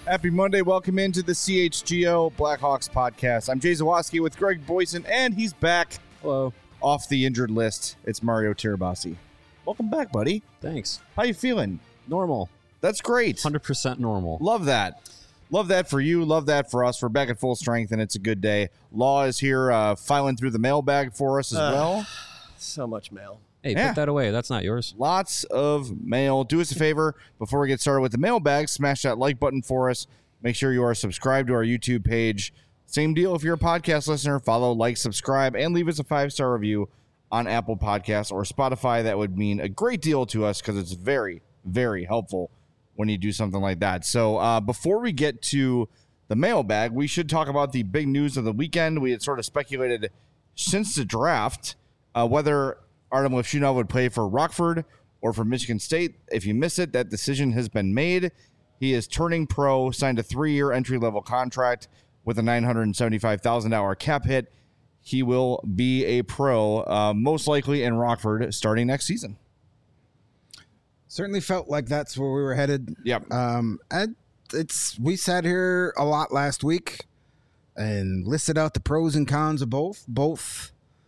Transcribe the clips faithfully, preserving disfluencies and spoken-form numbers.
Happy Monday. Welcome into the C H G O Blackhawks podcast. I'm Jay Zawaski with Greg Boyson, and he's back. Hello. Off the injured list. It's Mario Tirabassi. Welcome back, buddy. Thanks. How you feeling? Normal. That's great. one hundred percent normal. Love that. Love that for you. Love that for us. We're back at full strength, and it's a good day. Law is here uh, filing through the mailbag for us as uh, well. So much mail. Hey, yeah. Put that away. That's not yours. Lots of mail. Do us a favor before we get started with the mailbag. Smash that like button for us. Make sure you are subscribed to our YouTube page. Same deal if you're a podcast listener. Follow, like, subscribe, and leave us a five-star review on Apple Podcasts or Spotify. That would mean a great deal to us because it's very, very helpful when you do something like that. So uh, before we get to the mailbag, we should talk about the big news of the weekend. We had sort of speculated since the draft uh, whether Artem Levshunov would play for Rockford or for Michigan State. If you miss it, that decision has been made. He is turning pro, signed a three-year entry-level contract with a nine hundred seventy-five thousand dollars cap hit. He will be a pro, uh, most likely in Rockford, starting next season. Certainly felt like that's where we were headed. Yep. Um, and it's we sat here a lot last week and listed out the pros and cons of both. Both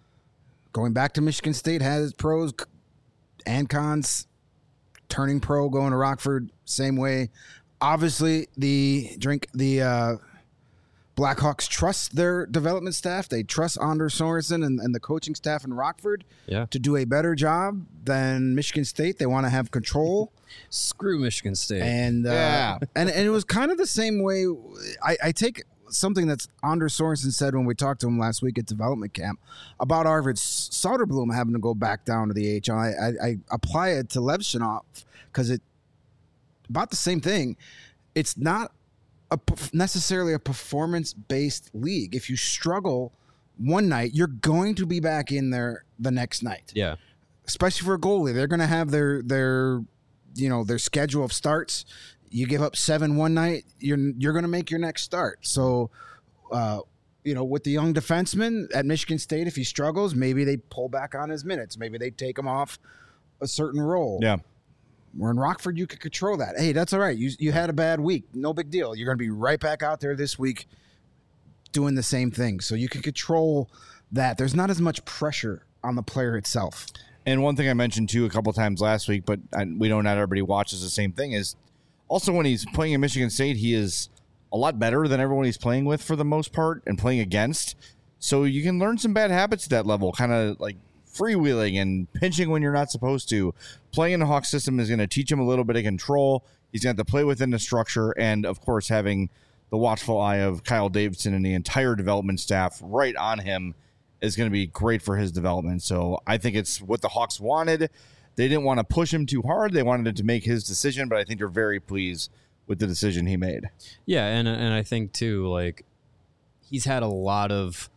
going back to Michigan State has pros and cons. Turning pro, going to Rockford, same way. Obviously, the drink the uh, Blackhawks trust their development staff. They trust Anders Sorensen and, and the coaching staff in Rockford yeah. to do a better job than Michigan State. They want to have control. Screw Michigan State. And uh, yeah. and, and it was kind of the same way. I, I take something that Anders Sorensen said when we talked to him last week at development camp about Arvid Soderblom having to go back down to the A H L. I, I, I apply it to Levshunov because it about the same thing. It's not a, necessarily a performance-based league. If you struggle one night, you're going to be back in there the next night. Yeah, especially for a goalie, they're going to have their their you know their schedule of starts. You give up seven one night, you're you're going to make your next start. So, uh, you know, with the young defenseman at Michigan State, if he struggles, maybe they pull back on his minutes. Maybe they take him off a certain role. Yeah. Where in Rockford, you could control that. Hey, that's all right. You you had a bad week. No big deal. You're going to be right back out there this week doing the same thing. So you can control that. There's not as much pressure on the player itself. And one thing I mentioned, too, a couple times last week, but I, we know not everybody watches the same thing, is also when he's playing in Michigan State, he is a lot better than everyone he's playing with for the most part and playing against. So you can learn some bad habits at that level, kind of like freewheeling and pinching when you're not supposed to. Playing in the Hawk system is going to teach him a little bit of control. He's going to have to play within the structure. And, of course, having the watchful eye of Kyle Davidson and the entire development staff right on him is going to be great for his development. So I think it's what the Hawks wanted. They didn't want to push him too hard. They wanted him to make his decision, but I think they're very pleased with the decision he made. Yeah, and and I think, too, like, he's had a lot of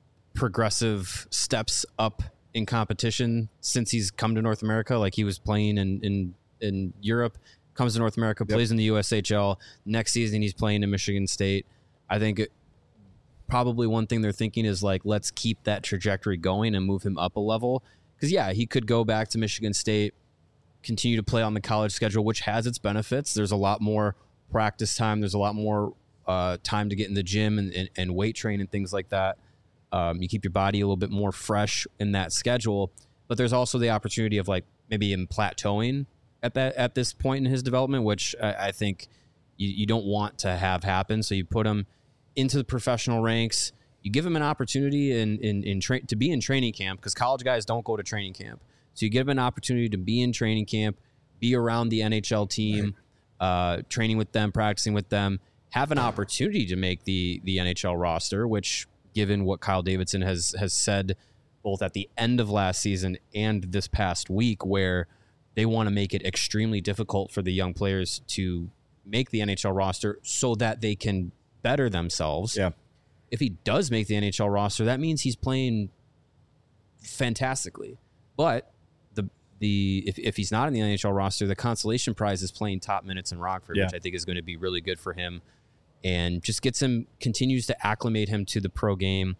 progressive steps up in competition since he's come to North America. Like, he was playing in, in, in Europe, comes to North America, Yep. plays in the U S H L. Next season, he's playing in Michigan State. I think it, probably one thing they're thinking is, like, let's keep that trajectory going and move him up a level. Because, yeah, he could go back to Michigan State, continue to play on the college schedule, which has its benefits. There's a lot more practice time. There's a lot more uh, time to get in the gym and, and, and weight train and things like that. Um, you keep your body a little bit more fresh in that schedule. But there's also the opportunity of, like, maybe him plateauing at that at this point in his development, which I, I think you, you don't want to have happen. So you put him into the professional ranks. You give him an opportunity in in, in tra- to be in training camp, because college guys don't go to training camp. So you give him an opportunity to be in training camp, be around the N H L team, right. uh, training with them, practicing with them, have an opportunity to make the the N H L roster, which, given what Kyle Davidson has has said both at the end of last season and this past week, where they want to make it extremely difficult for the young players to make the N H L roster so that they can better themselves. Yeah. If he does make the N H L roster, that means he's playing fantastically. But the the if, if he's not in the N H L roster, the consolation prize is playing top minutes in Rockford, yeah. which I think is going to be really good for him, and just gets him, continues to acclimate him to the pro game.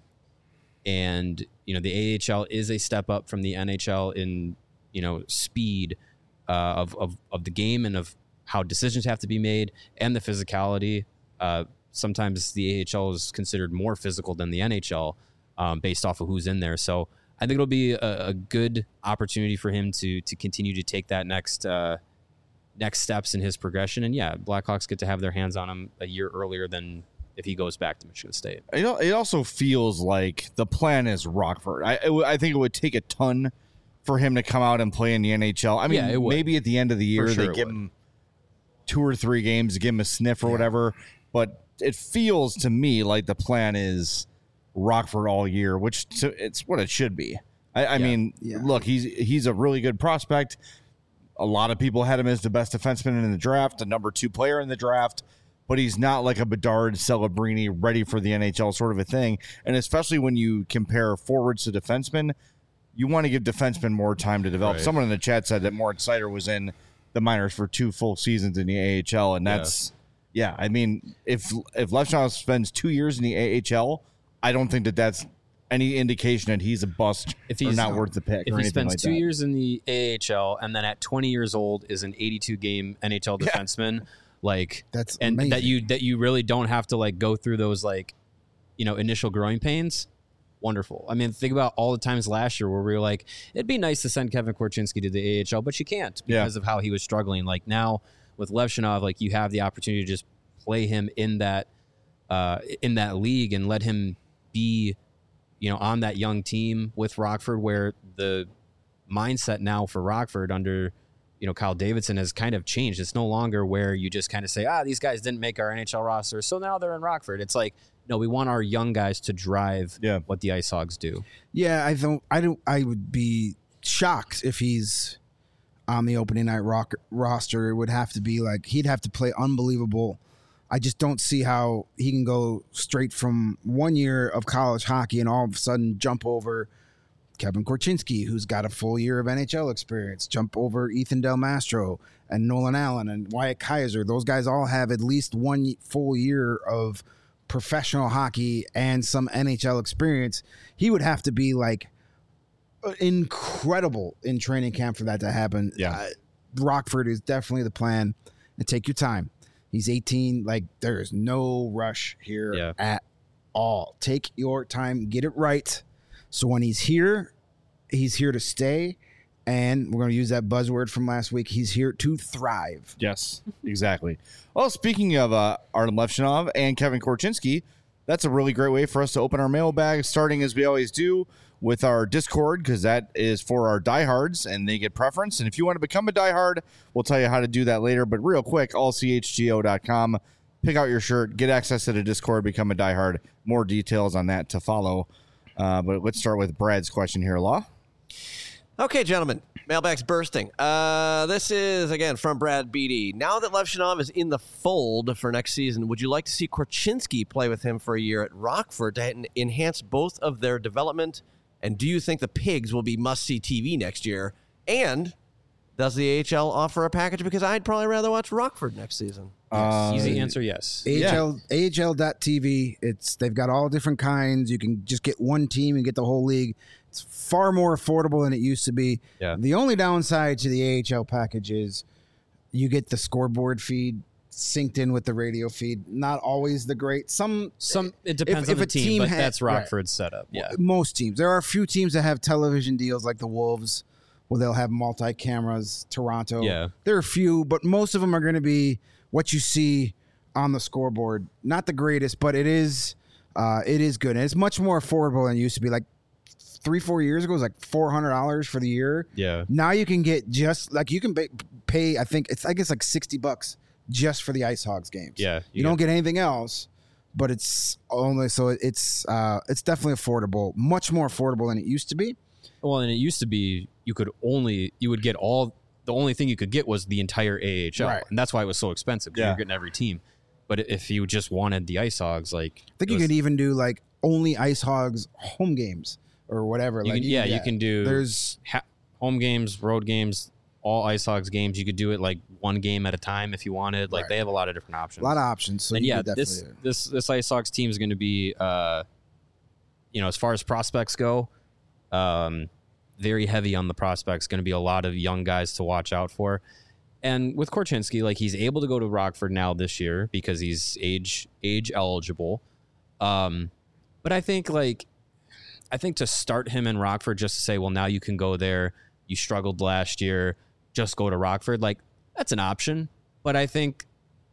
And, you know, the A H L is a step up from the N H L in, you know, speed uh, of, of, of the game and of how decisions have to be made and the physicality. Uh, sometimes the A H L is considered more physical than the N H L um, based off of who's in there. So I think it'll be a, a good opportunity for him to to continue to take that next uh, next steps in his progression. And yeah, Blackhawks get to have their hands on him a year earlier than if he goes back to Michigan State. You know, it also feels like the plan is Rockford. I it, I think it would take a ton for him to come out and play in the N H L. I mean, Yeah, it would. maybe at the end of the year sure they it give would. him two or three games to give him a sniff or whatever. But it feels to me like the plan is Rockford all year, which to, it's what it should be. I, I Yeah. mean, Yeah. look, he's he's a really good prospect. A lot of people had him as the best defenseman in the draft, the number two player in the draft, but he's not like a Bedard, Celebrini, ready for the N H L sort of a thing. And especially when you compare forwards to defensemen, you want to give defensemen more time to develop. Right. Someone in the chat said that Moritz Seider was in the minors for two full seasons in the A H L, and that's yeah. I mean, if if Levshov spends two years in the A H L, I don't think that that's any indication that he's a bust If or he's not worth the pick. If or he anything spends like two that. years in the A H L and then at twenty years old is an eighty-two game N H L Yeah. defenseman, like That's and amazing. that you that you really don't have to like go through those like you know initial growing pains. Wonderful. I mean, think about all the times last year where we were like, it'd be nice to send Kevin Korchinski to the A H L, but you can't Yeah. because of how he was struggling. Like now with Levshunov, like you have the opportunity to just play him in that uh, in that league and let him be, you know, on that young team with Rockford, where the mindset now for Rockford under, you know, Kyle Davidson has kind of changed. It's no longer where you just kind of say, ah, these guys didn't make our N H L roster, so now they're in Rockford. It's like, no, we want our young guys to drive Yeah. what the Ice Hogs do. Yeah, I don't. I don't. I would be shocked if he's on the opening night rock, roster. It would have to be like he'd have to play unbelievable. I just don't see how he can go straight from one year of college hockey and all of a sudden jump over Kevin Korchinski, who's got a full year of N H L experience, jump over Ethan Del Mastro and Nolan Allen and Wyatt Kaiser. Those guys all have at least one full year of professional hockey and some N H L experience. He would have to be like incredible in training camp for that to happen. Yeah. Uh, Rockford is definitely the plan, and take your time. He's eighteen. Like, there is no rush here Yeah. at all. Take your time, get it right. So when he's here, he's here to stay. And we're going to use that buzzword from last week. He's here to thrive. Yes, exactly. Well, speaking of uh, Artem Levshunov and Kevin Korchinski, that's a really great way for us to open our mailbag, starting as we always do with our Discord, because that is for our diehards, and they get preference. And if you want to become a diehard, we'll tell you how to do that later. But real quick, all c h g o dot com. Pick out your shirt, get access to the Discord, become a diehard. More details on that to follow. Uh, but let's start with Brad's question here, Law. Okay, gentlemen, mailbag's bursting. Uh, this is, again, from Brad Beatty. Now that Levshunov is in the fold for next season, would you like to see Korchinski play with him for a year at Rockford to en- enhance both of their development? And do you think the Pigs will be must-see T V next year? And does the A H L offer a package? Because I'd probably rather watch Rockford next season. Uh, Easy answer, yes. A H L, A H L dot T V. It's they've got all different kinds. You can just get one team and get the whole league. It's far more affordable than it used to be. Yeah. The only downside to the A H L package is you get the scoreboard feed synced in with the radio feed. Not always the great. Some Some it depends if on the a team, team but had- that's right. Rockford's setup. Yeah. most teams. There are a few teams that have television deals like the Wolves, where they'll have multi cameras. Toronto. Yeah. There are a few, but most of them are going to be what you see on the scoreboard. Not the greatest, but it is uh, it is good. And it's much more affordable than it used to be. Like three, four years ago, it was like four hundred dollars for the year. Yeah. Now you can get just like you can pay, pay I think it's I guess like sixty bucks just for the Ice Hogs games. Yeah. You, don't get anything else, but it's only so it's uh, it's definitely affordable, much more affordable than it used to be. Well, and it used to be you could only you would get all the only thing you could get was the entire A H L, Right. and that's why it was so expensive. 'Cause Yeah. you're getting every team. But if you just wanted the Ice Hogs, like I think it you was- could even do like only Ice Hogs home games or whatever. you like can, yeah, you can do There's ha- home games, road games, all Ice Hogs games. You could do it like one game at a time if you wanted. Like Right. they have a lot of different options. a lot of options. So and you yeah, could this definitely- this this Ice Hogs team is going to be, uh, you know, as far as prospects go, um, very heavy on the prospects. Going to be a lot of young guys to watch out for. And with Korchinski, like he's able to go to Rockford now this year because he's age age eligible. Um, but I think like I think to start him in Rockford just to say, well, now you can go there. You struggled last year. Just go to Rockford. Like that's an option. But I think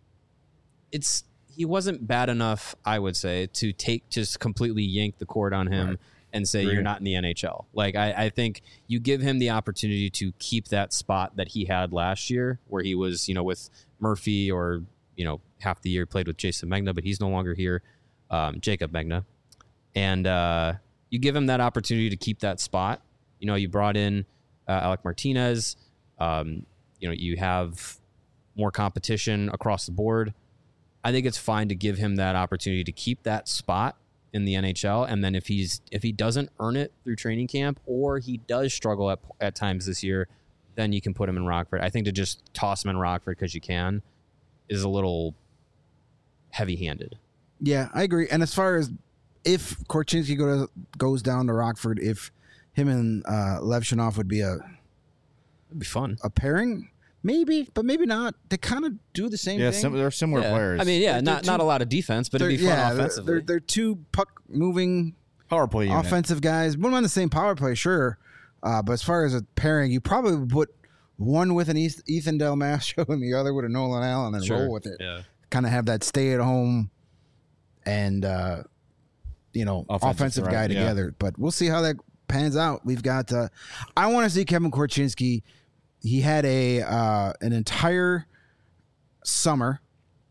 it's he wasn't bad enough, I would say, to take just completely yank the cord on him. Right. And say Agreed. You're not in the N H L. Like I, I think you give him the opportunity to keep that spot that he had last year, where he was, you know, with Murphy, or you know, half the year played with Jason Megna, but he's no longer here, um, Jacob Megna, and uh, you give him that opportunity to keep that spot. You know, you brought in uh, Alec Martinez. Um, you know, you have more competition across the board. I think it's fine to give him that opportunity to keep that spot in the N H L, and then if he's if he doesn't earn it through training camp, or he does struggle at at times this year, then you can put him in Rockford. I think to just toss him in Rockford because you can is a little heavy-handed. Yeah, I agree. And as far as if Korchinski go to, goes down to Rockford, if him and uh, Levshunov would be a It'd be fun. a pairing, maybe, but maybe not. They kind of do the same Yeah, thing. sim- they're similar Yeah. players. I mean, yeah, They're- not they're not two- a lot of defense, but it'd be They're- fun yeah, they're- offensively. They're, they're two puck moving power play unit. offensive guys. One on the same power play, sure. Uh, but as far as a pairing, you probably would put one with an East, Ethan Del Mastro and the other with a Nolan Allen and Sure. roll with it. Yeah. Kind of have that stay at home and, uh, you know, Offensive offensive, threat, guy yeah. together. But we'll see how that pans out. We've got, uh, I want to see Kevin Korchinski. He had a uh, an entire summer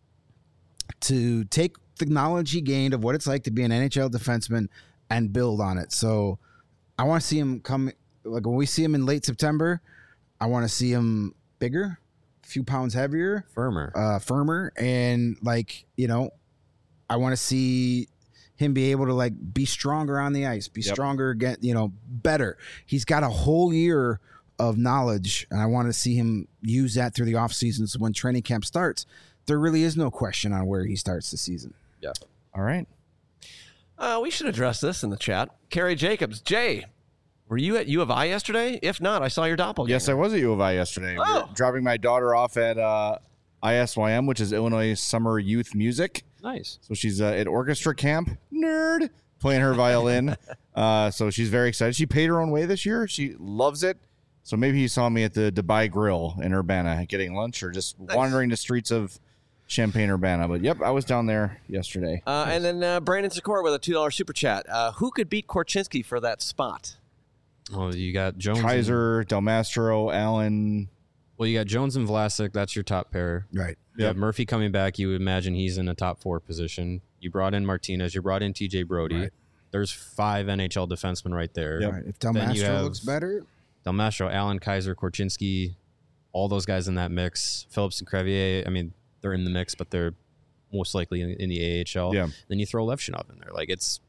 to take the knowledge he gained of what it's like to be an N H L defenseman and build on it. So I want to see him come, like when we see him in late September, I want to see him bigger, a few pounds heavier, Firmer. uh, firmer, and like, you know, I want to see him be able to like be stronger on the ice, be Yep. stronger, get, you know, better. He's got a whole year of knowledge, and I want to see him use that through the off season. So when training camp starts, there really is no question on where he starts the season. Yeah. All right. Uh, we should address this in the chat. Carrie Jacobs, Jay, were you at U of I yesterday? If not, I saw your doppelganger. Yes, I was at U of I yesterday. We Oh. were dropping my daughter off at uh, I S Y M, which is Illinois Summer Youth Music. Nice. So she's uh, at orchestra camp, nerd, playing her violin. uh, so she's very excited. She paid her own way this year. She loves it. So maybe you saw me at the Dubai Grill in Urbana getting lunch, or just Nice. wandering the streets of Champaign, Urbana. But yep, I was down there yesterday. Uh, and then uh, Brandon Sikora with a two dollar super chat. Uh, who could beat Korchinski for that spot? Well, you got Jones. and- Kaiser, Del Mastro, Allen. well, you got Jones and Vlasic. That's your top pair. Right. You Yep. have Murphy coming back. You would imagine he's in a top four position. You brought in Martinez. You brought in T J Brody. Right. There's five N H L defensemen right there. Yep. Right. If Del Then you Mastro have- looks better, Del Mastro, Allen, Kaiser, Korchinski, all those guys in that mix. Phillips and Crevier, I mean, they're in the mix, but they're most likely in, in the A H L. Yeah. Then you throw Levshunov in there. Like it's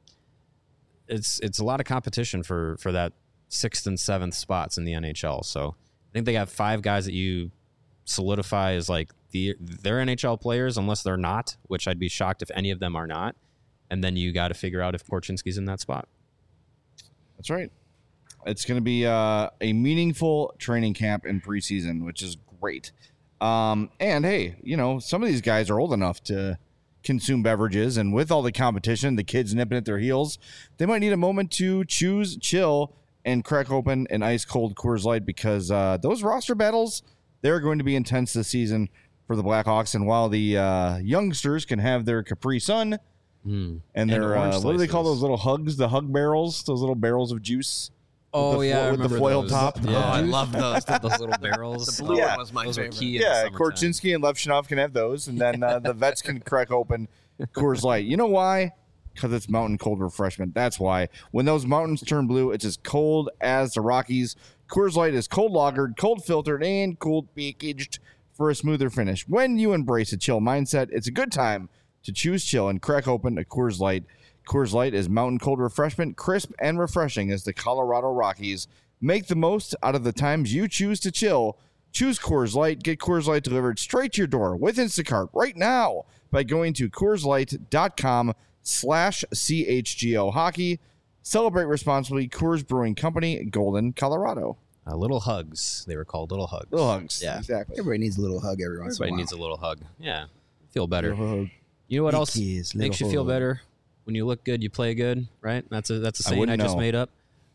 it's it's a lot of competition for for that sixth and seventh spots in the N H L. So I think they got five guys that you solidify as like the they're N H L players unless they're not, which I'd be shocked if any of them are not. And then you got to figure out if Korchinski's in that spot. That's right. It's going to be uh, a meaningful training camp in preseason, which is great. Um, and hey, you know, some of these guys are old enough to consume beverages, and with all the competition, the kids nipping at their heels, they might need a moment to choose, chill, and crack open an ice cold Coors Light, because uh, those roster battles, they're going to be intense this season for the Blackhawks. And while the uh, youngsters can have their Capri Sun Mm. and their orange uh, what do they call slices. those little hugs, the hug barrels, those little barrels of juice. Oh the yeah, fo- I with the remember foil those. top. Yeah, Oh, I love those. those little barrels. The blue Yeah. one was my those favorite. Are key in Yeah, the summertime. Korchinski and Levshunov can have those, and then uh, the vets can crack open Coors Light. You know why? Because it's mountain cold refreshment. That's why. When those mountains turn blue, it's as cold as the Rockies. Coors Light is cold lagered, cold filtered, and cold packaged for a smoother finish. When you embrace a chill mindset, it's a good time to choose chill and crack open a Coors Light. Coors Light is mountain cold refreshment, crisp and refreshing as the Colorado Rockies. Make the most out of the times you choose to chill. Choose Coors Light. Get Coors Light delivered straight to your door with Instacart right now by going to CoorsLight.com slash CHGO Hockey. Celebrate responsibly. Coors Brewing Company, Golden, Colorado. Uh, little hugs. They were called little hugs. Little hugs. Yeah. Exactly. Everybody needs a little hug every once Everybody in a while. needs a little hug. Yeah. Feel better. Little hug. You know what Big else kiss, makes you little feel hug. better? When you look good, you play good, right? That's a that's a I saying I, wouldn't just know. made up.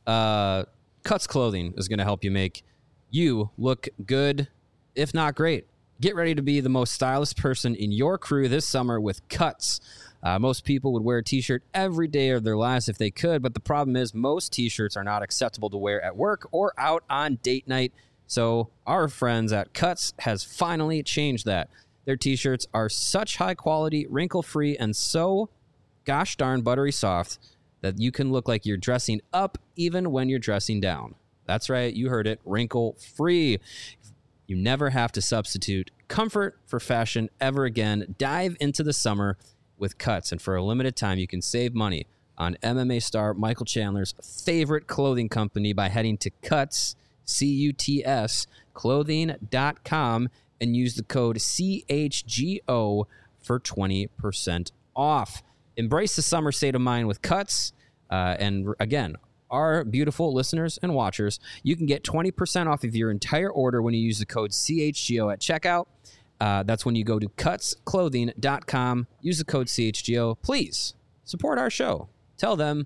Uh, Cuts Clothing is going to help you make you look good, if not great. Get ready to be the most stylish person in your crew this summer with Cuts. Uh, most people would wear a t-shirt every day of their lives if they could, but the problem is most t-shirts are not acceptable to wear at work or out on date night. So our friends at Cuts has finally changed that. Their t-shirts are such high quality, wrinkle-free, and so gosh darn buttery soft that you can look like you're dressing up even when you're dressing down. That's right, you heard it, wrinkle-free. You never have to substitute comfort for fashion ever again. Dive into the summer with Cuts, and for a limited time, you can save money on M M A star Michael Chandler's favorite clothing company by heading to Cuts, C U T S, clothing dot com and use the code C H G O for twenty percent off. Embrace the summer state of mind with Cuts, uh, and again, our beautiful listeners and watchers, you can get twenty percent off of your entire order when you use the code C H G O at checkout. Uh, that's when you go to cuts clothing dot com, use the code C H G O. Please support our show. Tell them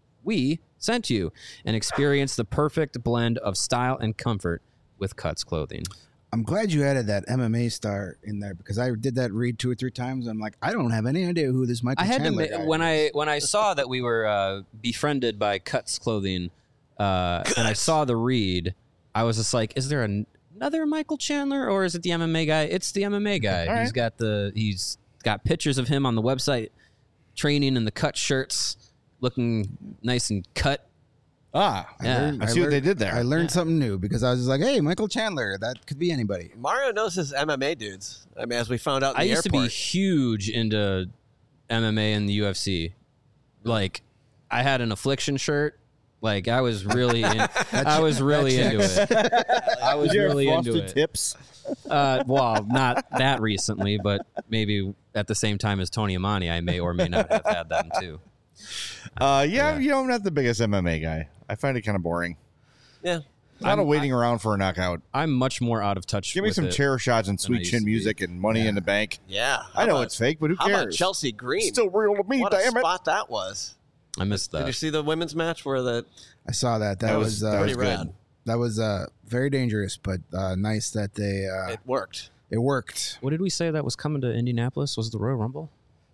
we sent you and experience the perfect blend of style and comfort with Cuts Clothing. I'm glad you added that M M A star in there because I did that read two or three times. I'm like, I don't have any idea who this Michael I had Chandler to guy ma- when is. I when I saw that we were uh, befriended by Cuts Clothing, uh, and I saw the read, I was just like, is there an, another Michael Chandler or is it the M M A guy? It's the M M A guy. All He's right. got the he's got pictures of him on the website training in the cut shirts, looking nice and cut. Ah, I Yeah. learned- I see what learned- they did there. I learned Yeah. something new because I was just like, hey, Michael Chandler, that could be anybody. Mario knows his M M A dudes. I mean, as we found out in I the used to be airport. huge into M M A and the U F C. Like, I had an Affliction shirt. Like, I was really, in, I was really into it. I was Did you have really into frosted it. tips? Uh, well, not that recently, but maybe at the same time as Tony Amani, I may or may not have had them too. Uh, yeah, Yeah. you know, I'm not the biggest M M A guy. I find it kind of boring. Yeah. A lot I'm- of waiting around for a knockout. I'm much more out of touch. Give me with some it. chair shots and than I sweet used chin to be. music and money in the bank. Yeah. I How know about- it's fake, but who How cares? about Chelsea Green? It's still real to me, what a damn it. spot that was. I missed Did you that. see the women's match where the I saw that. That, That was, was- uh, that pretty was good. rad? that was uh, very dangerous, but uh, nice that they uh, It it, worked. worked. What did we say that was coming to Indianapolis? Was it the Royal Rumble?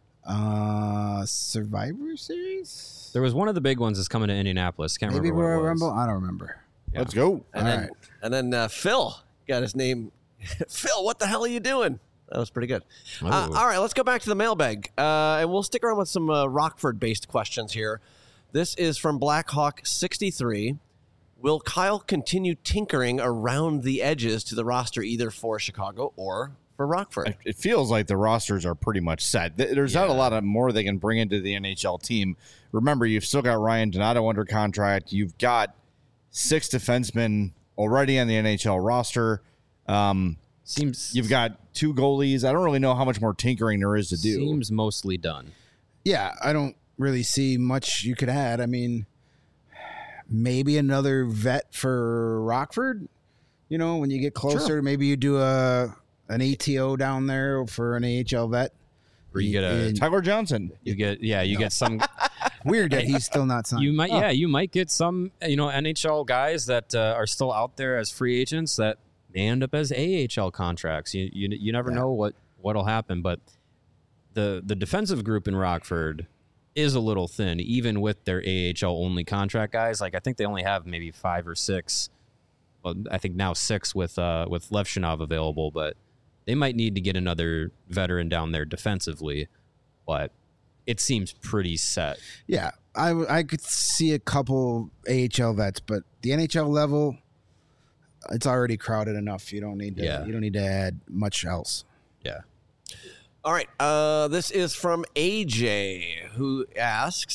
Uh, Survivor Series? There was one of the big ones that's coming to Indianapolis. Can't Maybe remember what it Royal was. Rumble? I don't remember. Let's go. And All then, right. and then uh, Phil got his name. Phil, what the hell are you doing? That was pretty good. Uh, Oh. all right, let's go back to the mailbag. Uh, and we'll stick around with some uh, Rockford-based questions here. This is from Blackhawk sixty-three. Will Kyle continue tinkering around the edges to the roster either for Chicago or for Rockford? It feels like the rosters are pretty much set. Th- There's not a Yeah. lot of more they can bring into the N H L team. Remember, you've still got Ryan Donato under contract. You've got six defensemen already on the N H L roster. Um, Seems you've got two goalies. I don't really know how much more tinkering there is to do. Seems mostly done. Yeah, I don't really see much you could add. I mean, maybe another vet for Rockford. You know, when you get closer, Sure. maybe you do a an A T O down there for an A H L vet. Or you get a And Tyler Johnson. you get yeah you get some weird that he's still not signed. you might yeah you might get some you know N H L guys that uh, are still out there as free agents that may end up as A H L contracts. You you, you never Yeah. know what what'll happen, but the the defensive group in Rockford is a little thin, even with their A H L only contract guys. Like I think they only have maybe five or six. Well, I think now six with uh, with Levshinov available, but they might need to get another veteran down there defensively. But it seems pretty set. Yeah, I, w- I could see a couple A H L vets, but the N H L level, it's already crowded enough. You don't need to. Yeah. You don't need to add much else. Yeah. All right. Uh, this is from A J, who asks,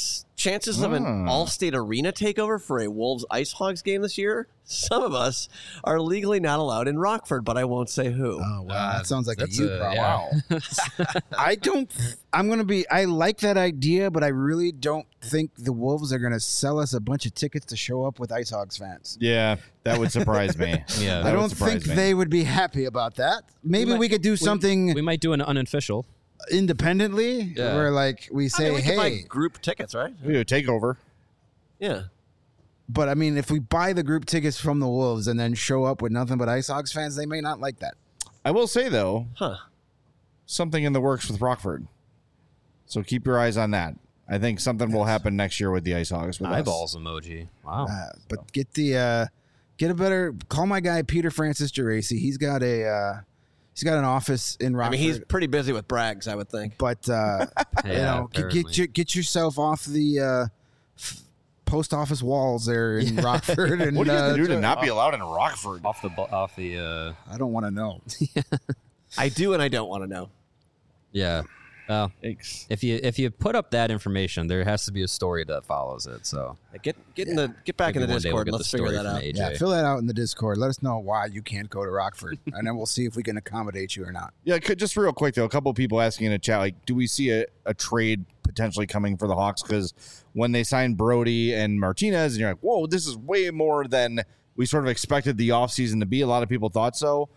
chances of an Ah. all-state arena takeover for a Wolves Ice Hogs game this year? Some of us are legally not allowed in Rockford, but I won't say who. Oh wow, Uh, that sounds like a that's you a- problem. yeah. I don't. I'm gonna be. I like that idea, but I really don't think the Wolves are gonna sell us a bunch of tickets to show up with Ice Hogs fans. Yeah, that would surprise me. Yeah. That I would don't surprise think me. they would be happy about that. Maybe we, might- could do something We might do an unofficial. independently, Yeah. where like we I say, mean, we could buy "Hey," group tickets, right? We do a takeover. Yeah. but I mean, if we buy the group tickets from the Wolves and then show up with nothing but Ice Hogs fans, they may not like that. I will say though, Huh. something in the works with Rockford. So keep your eyes on that. I think something will happen next year with the Ice Hogs. With us. Eyeballs emoji. Wow. Uh, but get the uh, get a better call my guy Peter Francis Geraci. He's got a uh, he's got an office in I Rockford. mean, he's pretty busy with Braggs, I would think. but uh, you Yeah, know, get, apparently. get your get yourself off the uh, f- post office walls there in Rockford. And What do you have uh, to do to not be allowed in Rockford? Off the bu- off the uh I don't want to know. I do and I don't want to know. yeah. Well, Thanks. if you if you put up that information, there has to be a story that follows it. So Get get in the get back maybe in the one day we'll Discord get and the let's figure story that from out. A J. Yeah, fill that out in the Discord. Let us know why you can't go to Rockford, and then we'll see if we can accommodate you or not. Yeah, could, just real quick though, a couple of people asking in the chat, like, do we see a, a trade potentially coming for the Hawks? Because when they signed Brody and Martinez, and you're like, whoa, this is way more than we sort of expected the offseason to be. A lot of people thought so.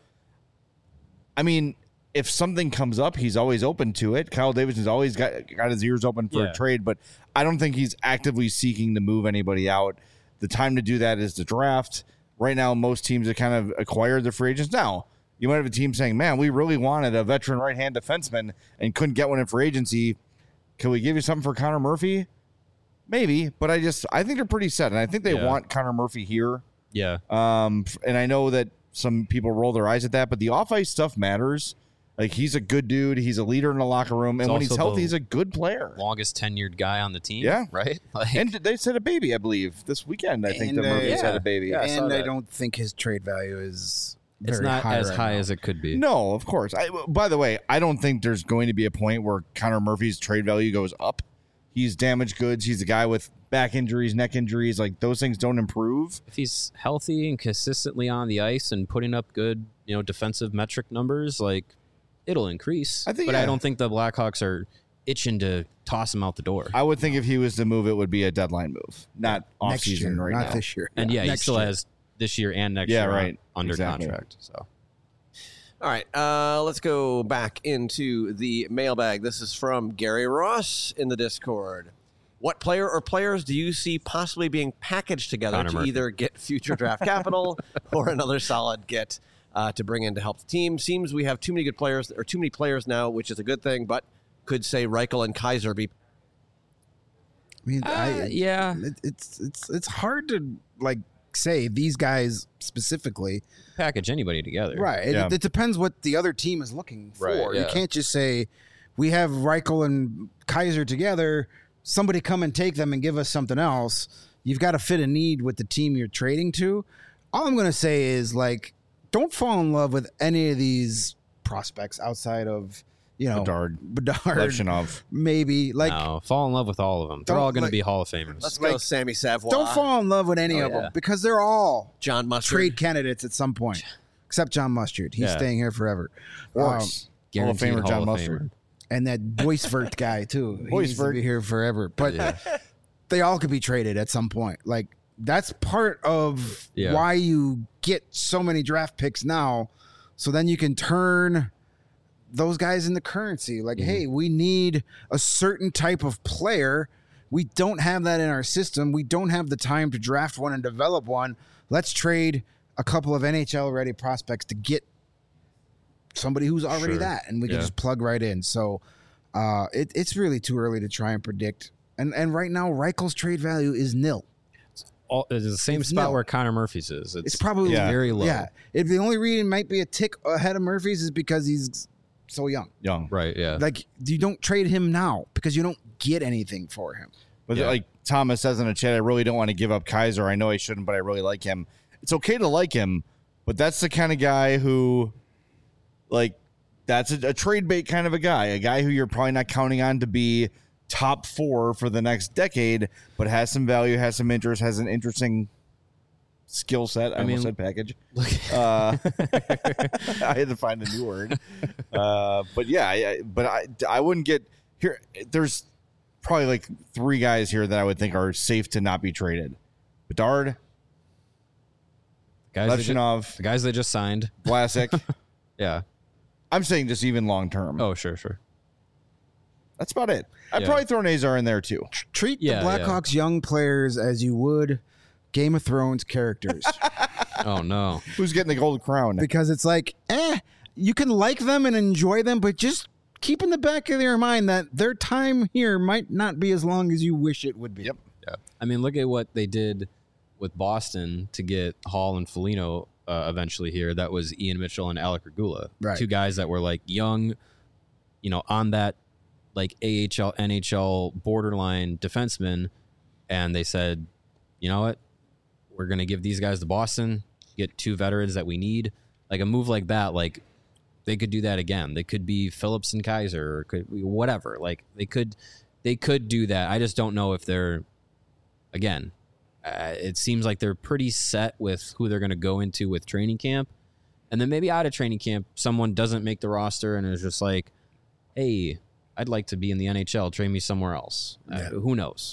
I mean, if something comes up, he's always open to it. Kyle Davidson's always got got his ears open for Yeah. a trade, but I don't think he's actively seeking to move anybody out. The time to do that is the draft. Right now, most teams have kind of acquired their free agents. Now, you might have a team saying, man, we really wanted a veteran right-hand defenseman and couldn't get one in free agency. Can we give you something for Connor Murphy? Maybe, but I just I think they're pretty set, and I think they Yeah. want Connor Murphy here. yeah. Um, and I know that some people roll their eyes at that, but the off-ice stuff matters. Like, he's a good dude. He's a leader in the locker room, and He's when he's also healthy, the he's a good player. Longest tenured guy on the team. Yeah. Right? Like, And they said a baby, I believe, this weekend. I think And, that uh, Murphy's yeah. had a baby. Yeah, I saw and I that. don't think his trade value is very it's not high as right high now. as it could be. No, of course. I, by the way, I don't think there's going to be a point where Connor Murphy's trade value goes up. He's damaged goods. He's a guy with back injuries, neck injuries. Like, those things don't improve. If he's healthy and consistently on the ice and putting up good, you know, defensive metric numbers, like it'll increase. I think- but yeah. I don't think the Blackhawks are itching to toss him out the door. I would think if he was to move, it would be a deadline move, not off next year, season right not now. this year. and yeah, he Next still year. has this year and next Yeah, year right. under Exactly. contract. So All right, uh, let's go back into the mailbag. This is from Gary Ross in the Discord. What player or players do you see possibly being packaged together Connor to Murphy. either get future draft capital or another solid get uh, to bring in to help the team? Seems we have too many good players or too many players now, which is a good thing, but could say Reichel and Kaiser be I mean, Uh, I, yeah. it, it's it's it's hard to like say these guys specifically. package anybody together. Right. It, Yeah. it depends what the other team is looking for. Right, You yeah. can't just say we have Reichel and Kaiser together. Somebody come and take them and give us something else. You've got to fit a need with the team you're trading to. All I'm going to say is like, don't fall in love with any of these prospects outside of you know Bedard, Bedard, Levchinov. maybe like. no, fall in love with all of them. They're Don't, all going like- to be Hall of Famers. Let's go Like, Sammy Savoy. Don't fall in love with any Oh, of yeah. them because they're all John Mustard. trade candidates at some point, except John Mustard. He's Yeah. staying here forever. Of Um, course. Hall of Guaranteed Famer Hall John of Mustard. Famer. and that Boisvert guy too. He needs to Boisvert. be here forever. But Yeah. they all could be traded at some point. Like that's part of Yeah. why you get so many draft picks now. So then you can turn those guys into currency. Like, hey, we need a certain type of player. We don't have that in our system. We don't have the time to draft one and develop one. Let's trade a couple of N H L ready prospects to get somebody who's already Sure. that, and we can Yeah. just plug right in. So uh, it, it's really too early to try and predict. And and right now, Reichel's trade value is nil. All, it's the same It's spot nil. where Connor Murphy's is. It's, It's probably Yeah. very low. Yeah. If the only reason it might be a tick ahead of Murphy's is because he's so young. Young. Right. Yeah. Like you don't trade him now because you don't get anything for him. But Yeah. like Thomas says in the chat, I really don't want to give up Kaiser. I know I shouldn't, but I really like him. It's okay to like him, but that's the kind of guy who, like, that's a, a trade bait kind of a guy, a guy who you're probably not counting on to be top four for the next decade, but has some value, has some interest, has an interesting skill set. I, I mean, almost said package. Uh, I had to find a new word. Uh, but yeah, I, but I, I wouldn't get here. There's probably like three guys here that I would think are safe to not be traded. Bedard, guys Levchinov, just, the guys they just signed. Vlasic. Yeah. I'm saying just even long term. Oh, sure, sure. That's about it. I'd Yeah. probably throw Nazar in there too. Treat Yeah, the Blackhawks young players as you would Game of Thrones characters. Oh, no. Who's getting the gold crown? Because it's like, eh, you can like them and enjoy them, but just keep in the back of your mind that their time here might not be as long as you wish it would be. Yep. Yeah. I mean, look at what they did with Boston to get Hall and Foligno uh, eventually here. That was Ian Mitchell and Alec Regula. Right. Two guys that were like young, you know, on that like A H L, N H L borderline defensemen. And they said, you know what? We're going to give these guys to Boston, get two veterans that we need. Like a move like that, like they could do that again. They could be Phillips and Kaiser or could whatever. Like they could, they could do that. I just don't know if they're, again, uh, it seems like they're pretty set with who they're going to go into with training camp. And then maybe out of training camp, someone doesn't make the roster and is just like, hey, I'd like to be in the N H L. Trade me somewhere else. Uh, who knows?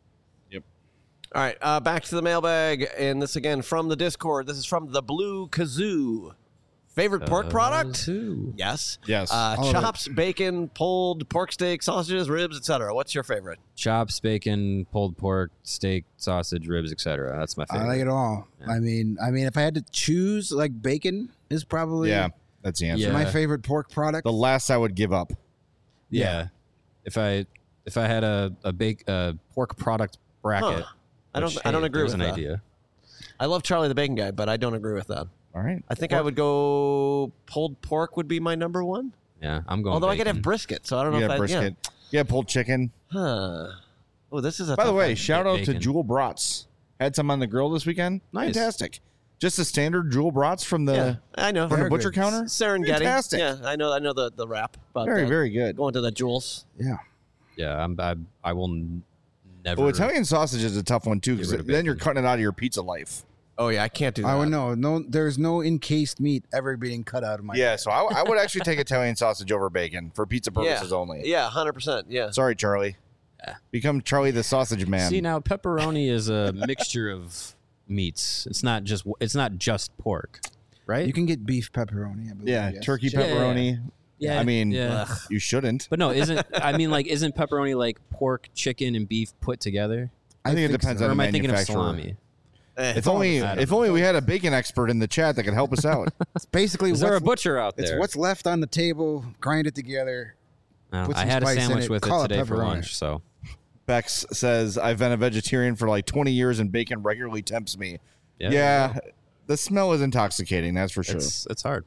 All right, uh, back to the mailbag, and this again from the Discord. This is from the Blue Kazoo. Favorite pork product? Kazoo. Yes. Yes. Uh, All of chops, bacon, pulled pork steak, sausages, ribs, et cetera. What's your favorite? Chops, bacon, pulled pork, steak, sausage, ribs, et cetera. That's my favorite. I like it all. Yeah. I mean, I mean, if I had to choose, like bacon is probably yeah, that's the answer. Yeah. my favorite pork product. The last I would give up. Yeah. If I if I had a a bake a pork product bracket, Huh. I don't. which, I don't hey, agree there's with an that. idea. I love Charlie the Bacon Guy, but I don't agree with that. All right. I think I would go pulled pork would be my number one. Yeah, I'm going. Although I could bacon. have brisket, so I don't know Yeah, if I, brisket. Yeah, pulled chicken. Yeah. Huh. Oh, this is a. By the tough way, one. shout out to Bacon. Jewel Brats. Had some on the grill this weekend. Nice. Fantastic. Just a standard Jewel Brats from the yeah, I know. from the Very butcher good. counter. Serengeti. Fantastic. Yeah, I know. I know the the rap. But Very, uh, very good. going to the jewels. yeah. Yeah, I'm. I, I will n- never. Well, Italian sausage is a tough one too, because Get rid of then you're bacon. cutting it out of your pizza life. Oh yeah, I can't do that. I would know. No, there's no encased meat ever being cut out of my. Yeah, so I, I would actually take Italian sausage over bacon for pizza purposes yeah. only. Yeah, hundred percent. Yeah. Sorry, Charlie. Become Charlie the Sausage Man. See now, pepperoni is a mixture of meats. It's not just. It's not just pork, right? You can get beef pepperoni. I believe, yeah, yes. turkey Yeah, yeah, pepperoni. yeah. I mean, yeah. you shouldn't. But no, isn't I mean like isn't pepperoni like pork, chicken, and beef put together? I think it depends so. Or on am the I thinking of manufacturer. salami? Eh. If only, I don't if only we had a bacon expert in the chat that could help us out. It's basically Is there a what's, butcher out it's there? what's left on the table. Grind it together. I, put I some had a spice in sandwich it, with call it it today for pepperoni. lunch, so Bex says, I've been a vegetarian for like twenty years and bacon regularly tempts me. yeah, Yeah, the smell is intoxicating, that's for sure. it's it's hard.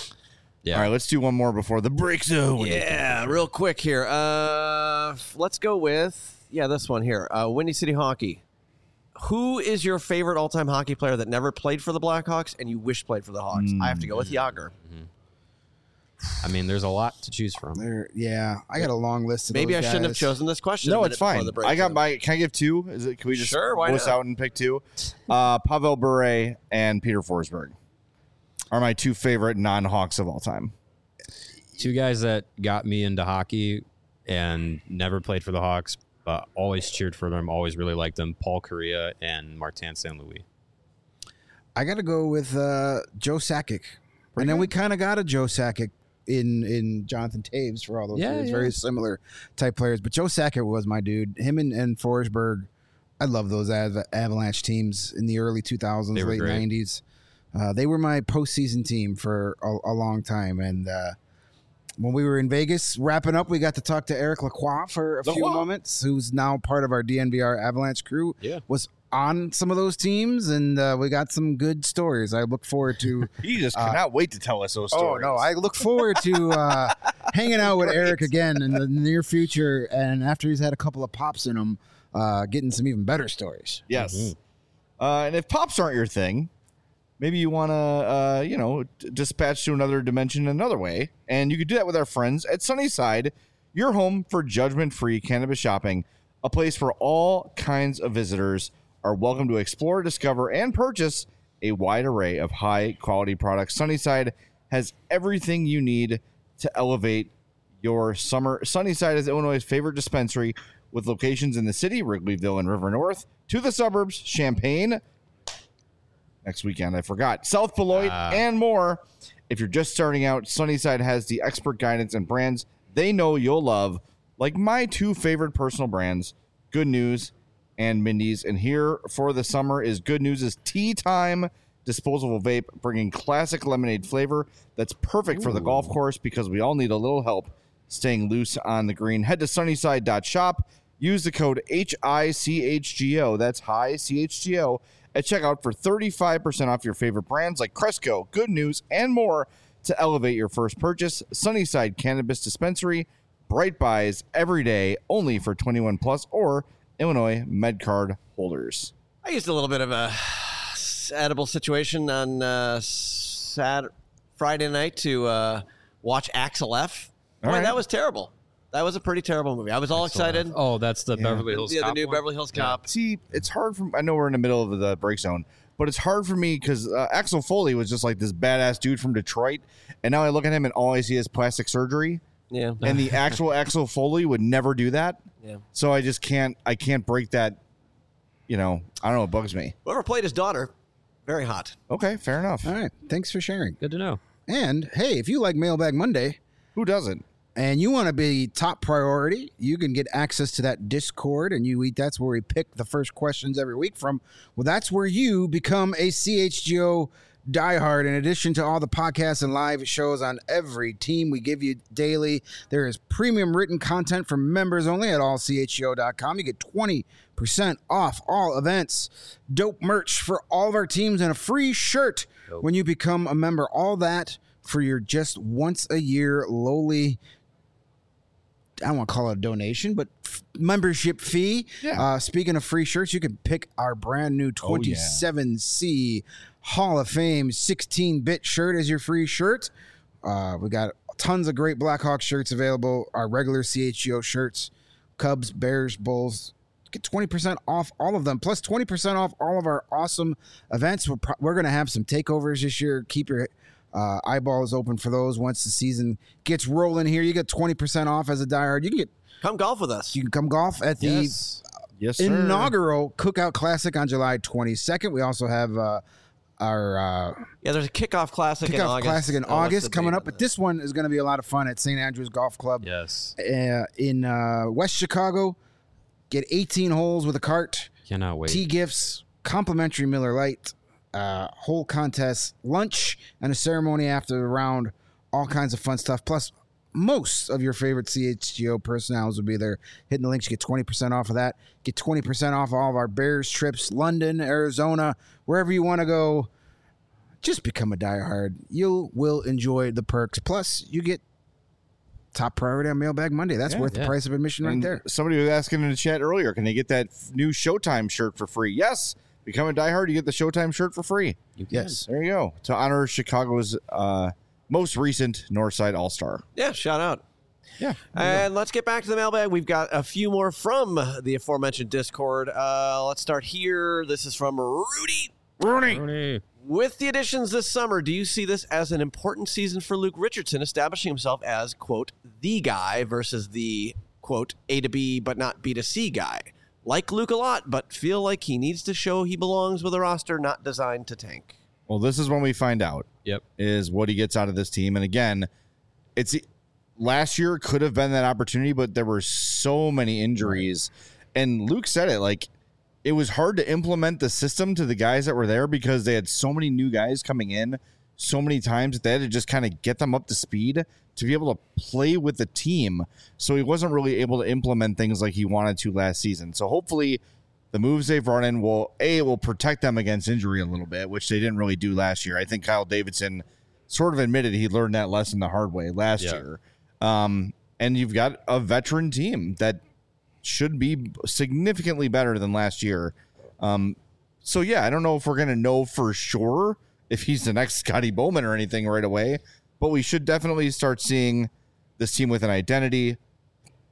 Yeah, All right, let's do one more before the break zone. Yeah, real quick here. Uh, let's go with yeah this one here. Uh, Windy City Hockey. Who is your favorite all-time hockey player that never played for the Blackhawks and you wish played for the Hawks? I have to go with Yager. I mean, there's a lot to choose from. There, yeah, I got a long list of Maybe I those shouldn't have guys. chosen this question. a No, minute it's before fine. the break I got zone. my. Can I give two? Is it? Can we just Sure, why wuss not? out and pick two? Uh, Pavel Bure and Peter Forsberg are my two favorite non-Hawks of all time. Two guys that got me into hockey and never played for the Hawks, but always cheered for them, always really liked them. Paul Correa and Martin Saint Louis. I got to go with uh, Joe Sakic, and then we kind of got a Joe Sakic in in Jonathan Taves for all those Yeah, years. yeah. Very similar type players, but Joe Sakic was my dude. Him and, and Forsberg. I love those Av- Avalanche teams in the early two thousands, They were late great. nineties. Uh, they were my postseason team for a, a long time, and uh, when we were in Vegas wrapping up, we got to talk to Eric Lacroix for a few Lacroix. moments, who's now part of our D N V R Avalanche crew. Yeah. Was on some of those teams, and uh, we got some good stories. I look forward to. He just Uh, cannot wait to tell us those oh stories. no, I look forward to uh, hanging out with Eric again in the near future, and after he's had a couple of pops in him, uh, getting some even better stories. Yes. Mhm. Uh, and if pops aren't your thing, maybe you want to, uh, you know, d- dispatch to another dimension another way. And you could do that with our friends at Sunnyside your home for judgment-free cannabis shopping, a place where all kinds of visitors are welcome to explore, discover, and purchase a wide array of high-quality products. Sunnyside has everything you need to elevate your summer. Sunnyside is Illinois' favorite dispensary with locations in the city, Wrigleyville and River North, to the suburbs, Champaign, next weekend, I forgot, South Beloit, uh. and more. If you're just starting out, Sunnyside has the expert guidance and brands they know you'll love, like my two favorite personal brands, Good News and Mindy's. And here for the summer is Good News' Tea Time disposable vape, bringing classic lemonade flavor that's perfect Ooh. for the golf course because we all need a little help staying loose on the green. Head to sunnyside dot shop. Use the code H I C H G O. That's high C H G O at checkout for thirty-five percent off your favorite brands like Cresco, Good News, and more to elevate your first purchase. Sunnyside Cannabis Dispensary. Bright buys every day, only for twenty-one plus or Illinois MedCard holders. I used a little bit of a edible situation on uh, Saturday, Friday night to uh, watch Axel F. Boy, right. that was terrible. That was a pretty terrible movie. I was all Axel excited. F. Oh, that's the yeah. Beverly Hills yeah, Cop the new one? Beverly Hills Cop. Yeah. See, it's hard for I know we're in the middle of the break zone, but it's hard for me because uh, Axel Foley was just like this badass dude from Detroit, and now I look at him and all I see is plastic surgery. Yeah, and the actual Axel Foley would never do that. Yeah, so I just can't. I can't break that. You know, I don't know. It bugs me. Whoever played his daughter, very hot. Okay, fair enough. All right, thanks for sharing. Good to know. And hey, if you like Mailbag Monday, who doesn't? And you want to be top priority, you can get access to that Discord, and you eat. That's where we pick the first questions every week from. Well, that's where you become a C H G O diehard. In addition to all the podcasts and live shows on every team we give you daily, there is premium written content for members only at all c h g o dot com. You get twenty percent off all events, dope merch for all of our teams, and a free shirt dope. when you become a member. All that for your just once a year lowly, I don't want to call it a donation, but f- membership fee. Yeah. Uh, speaking of free shirts, you can pick our brand new twenty-seven C oh, yeah. Hall of Fame sixteen-bit shirt as your free shirt. Uh, we got tons of great Blackhawks shirts available. Our regular C H G O shirts, Cubs, Bears, Bulls. Get twenty percent off all of them, plus twenty percent off all of our awesome events. We're, pro- we're going to have some takeovers this year. Keep your Uh, eyeballs open for those. Once the season gets rolling here, you get twenty percent off as a diehard. You can get come golf with us. You can come golf at the yes. Yes, inaugural Cookout Classic on July twenty-second. We also have uh, our uh, yeah. There's a kickoff classic kickoff in August. classic in oh, August coming up, but this one is going to be a lot of fun at Saint Andrews Golf Club. Yes, uh, in uh, West Chicago. Get eighteen holes with a cart. Cannot wait. Tee gifts, complimentary Miller Lite. Uh, whole contest, lunch, and a ceremony after the round. All kinds of fun stuff. Plus, most of your favorite C H G O personnels will be there. Hitting the links, you get twenty percent off of that. Get twenty percent off all of our Bears trips, London, Arizona, wherever you want to go. Just become a diehard. You will enjoy the perks. Plus, you get top priority on Mailbag Monday. That's yeah, worth yeah. the price of admission and right there. Somebody was asking in the chat earlier, can they get that new Showtime shirt for free? Yes. Become a diehard, you get the Showtime shirt for free. You yes. There you go. To honor Chicago's uh, most recent Northside All-Star. Yeah, shout out. Yeah. And let's get back to the mailbag. We've got a few more from the aforementioned Discord. Uh, let's start here. This is from Rudy. Rudy. Rudy. With the additions this summer, do you see this as an important season for Luke Richardson, establishing himself as, quote, the guy versus the, quote, A to B but not B to C guy? Like Luke a lot, but feel like he needs to show he belongs with a roster not designed to tank. Well, this is when we find out. Yep. Is what he gets out of this team. And again, it's last year could have been that opportunity, but there were so many injuries. Right. And Luke said it, like, it was hard to implement the system to the guys that were there because they had so many new guys coming in so many times that they had to just kind of get them up to speed to be able to play with the team. So he wasn't really able to implement things like he wanted to last season. So hopefully the moves they've run in will, A, will protect them against injury a little bit, which they didn't really do last year. I think Kyle Davidson sort of admitted he learned that lesson the hard way last yeah. year. Um, and you've got a veteran team that should be significantly better than last year. Um, so, yeah, I don't know if we're going to know for sure if he's the next Scotty Bowman or anything right away, but we should definitely start seeing this team with an identity,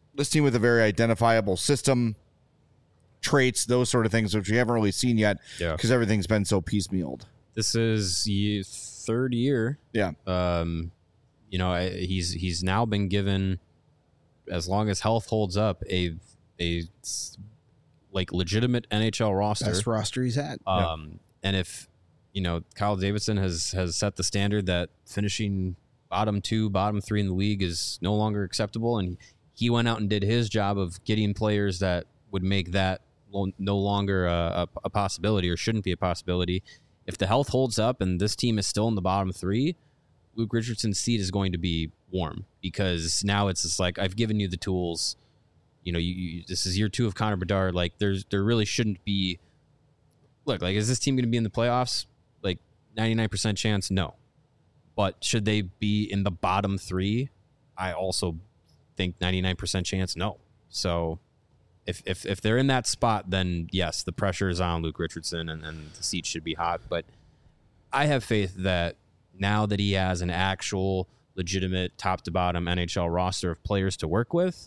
this team with a very identifiable system, traits, those sort of things, which we haven't really seen yet Yeah. because everything's been so piecemealed. This is ye- third year. Yeah. Um, you know, I- he's he's now been given, as long as health holds up, a a s- like legitimate N H L roster. Best roster he's had. Um, and if you know, Kyle Davidson has has set the standard that finishing bottom two, bottom three in the league is no longer acceptable, and he went out and did his job of getting players that would make that lo- no longer a, a, a possibility or shouldn't be a possibility. If the health holds up and this team is still in the bottom three, Luke Richardson's seat is going to be warm, because now it's just like, I've given you the tools. You know, you, you this is year two of Connor Bedard. Like, there's there really shouldn't be. Look, like, is this team going to be in the playoffs? Like, ninety-nine percent chance, no. But should they be in the bottom three? I also think ninety-nine percent chance, no. So if if if they're in that spot, then yes, the pressure is on Luke Richardson, and, and the seat should be hot. But I have faith that now that he has an actual legitimate top to bottom N H L roster of players to work with,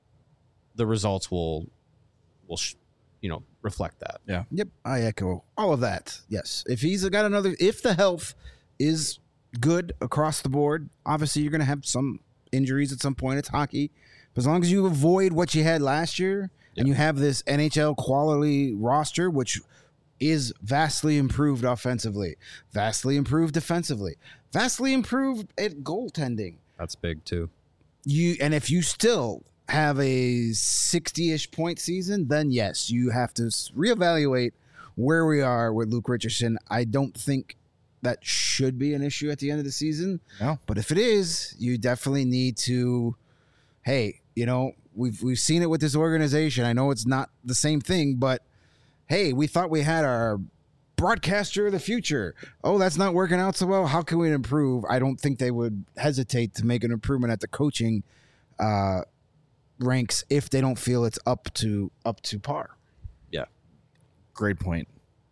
the results will will sh- you know reflect that. Yeah. Yep, I echo all of that. Yes, if he's got another, if the health is good across the board, obviously you're going to have some injuries at some point. It's hockey, but as long as you avoid what you had last year, Yep. and you have this N H L quality roster, which is vastly improved offensively, vastly improved defensively, vastly improved at goaltending. That's big too. You and if you still have a sixty-ish point season, then yes, you have to s- reevaluate where we are with Luke Richardson. I don't think that should be an issue at the end of the season. No. But if it is, you definitely need to, hey, you know, we've we've seen it with this organization. I know it's not the same thing, but hey, we thought we had our broadcaster of the future. Oh, that's not working out so well. How can we improve? I don't think they would hesitate to make an improvement at the coaching uh, ranks if they don't feel it's up to up to par. Yeah. Great point.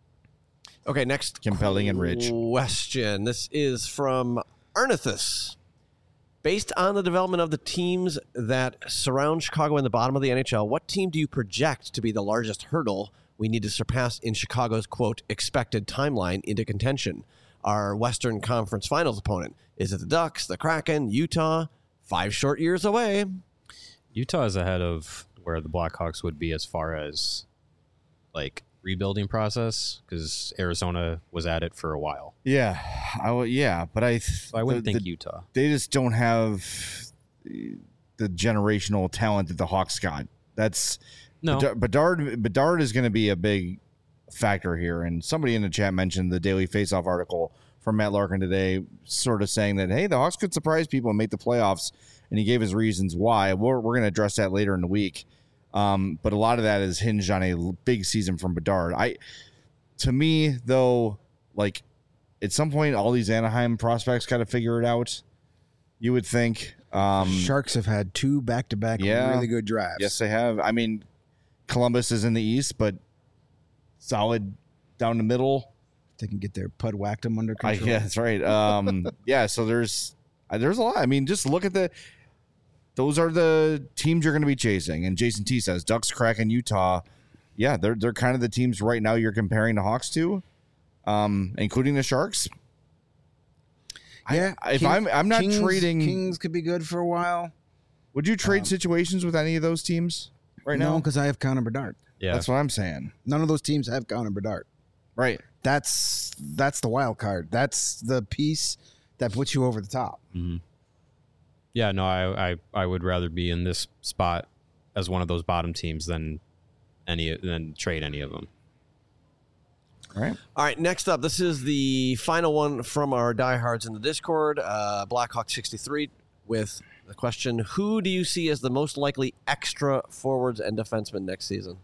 Okay, next Compelling and rich. question. This is from Arnithus. Based on the development of the teams that surround Chicago in the bottom of the N H L, what team do you project to be the largest hurdle we need to surpass in Chicago's, quote, expected timeline into contention? Our Western Conference Finals opponent. Is it the Ducks, the Kraken, Utah? Five short years away. Utah is ahead of where the Blackhawks would be as far as like rebuilding process, because Arizona was at it for a while. Yeah, I w- yeah, but I So I wouldn't the, think the- Utah. they just don't have the generational talent that the Hawks got. That's No, Bedard. Bedard, Bedard is going to be a big factor here. And somebody in the chat mentioned the Daily Faceoff article from Matt Larkin today, sort of saying that, hey, the Hawks could surprise people and make the playoffs. And he gave his reasons why. We're, we're going to address that later in the week. Um, but a lot of that is hinged on a l- big season from Bedard. I, to me, though, like at some point, all these Anaheim prospects got to figure it out. You would think. Um, Sharks have had two back-to-back yeah. really good drives. Yes, they have. I mean, Columbus is in the East, but solid down the middle. They can get their pud whacked them under I, control. yeah, that's right. Um, yeah, so there's uh, there's a lot. I mean, just look at the. Those are the teams you're going to be chasing. And Jason T says Ducks, Kraken, Utah. Yeah, they're they're kind of the teams right now you're comparing the Hawks to, um, including the Sharks. Yeah, I, if King- I'm I'm not Kings, trading. Kings could be good for a while. Would you trade um, situations with any of those teams right no, now? because I have Connor Bedard. yeah, That's what I'm saying. None of those teams have Connor Bedard. Right. That's that's the wild card. That's the piece that puts you over the top. Mhm. yeah. No, I, I I would rather be in this spot as one of those bottom teams than any than trade any of them. All right. All right, next up, this is the final one from our diehards in the Discord, uh, Blackhawk sixty-three, with the question, who do you see as the most likely extra forwards and defensemen next season?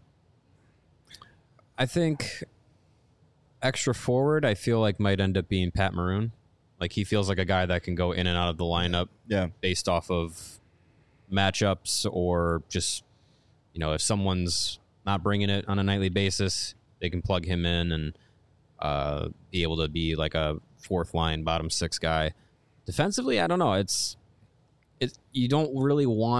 I think extra forward, I feel like might end up being Pat Maroon. Like, he feels like a guy that can go in and out of the lineup Yeah. based off of matchups, or just, you know, if someone's not bringing it on a nightly basis, they can plug him in and uh, be able to be like a fourth line, bottom six guy. Defensively, I don't know. It's it. You don't really want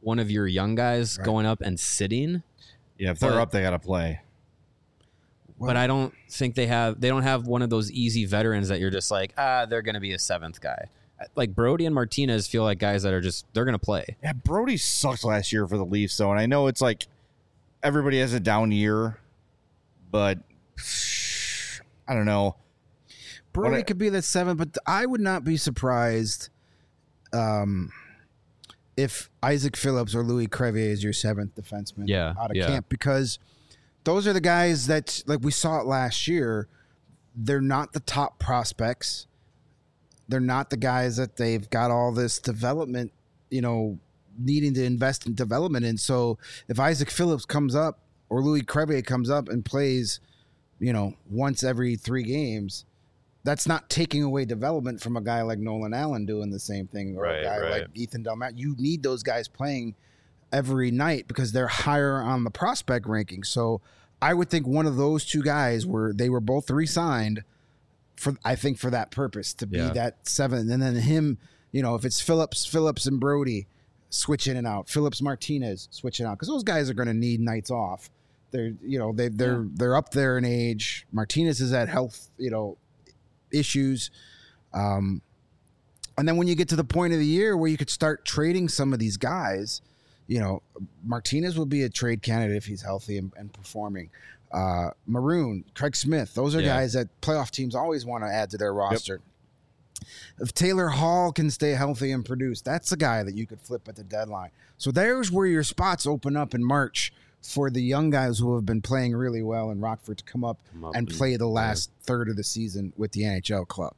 one of your young guys Right. going up and sitting. Yeah, if they're But- up, they got to play. But I don't think they have. They don't have one of those easy veterans that you're just like, ah, they're going to be a seventh guy. Like Brody and Martinez feel like guys that are just they're going to play. Yeah, Brody sucked last year for the Leafs, though, and I know it's like everybody has a down year, but I don't know. Brody What I- could be the seventh, but I would not be surprised um, if Isaac Phillips or Louis Crevier is your seventh defenseman Yeah, out of yeah. camp, because those are the guys that, like we saw it last year, they're not the top prospects. They're not the guys that they've got all this development, you know, needing to invest in development in. So if Isaac Phillips comes up or Louis Crevier comes up and plays, you know, once every three games, that's not taking away development from a guy like Nolan Allen doing the same thing, or Right, a guy right. like Ethan Delmat. You need those guys playing every night because they're higher on the prospect ranking. So I would think one of those two guys were they were both re-signed for I think for that purpose, to be Yeah. that seventh, and then him, you know, if it's Phillips, Phillips and Brody switch in and out, Phillips Martinez switching out, because those guys are going to need nights off. They're you know they they're they're up there in age. Martinez is at health you know issues. Um, and then when you get to the point of the year where you could start trading some of these guys, you know, Martinez will be a trade candidate if he's healthy and, and performing. Uh, Maroon, Craig Smith, those are Yeah. guys that playoff teams always want to add to their roster. If Taylor Hall can stay healthy and produce, that's a guy that you could flip at the deadline. So there's where your spots open up in March for the young guys who have been playing really well in Rockford to come up, Come up and and- play the last third of the season with the N H L club.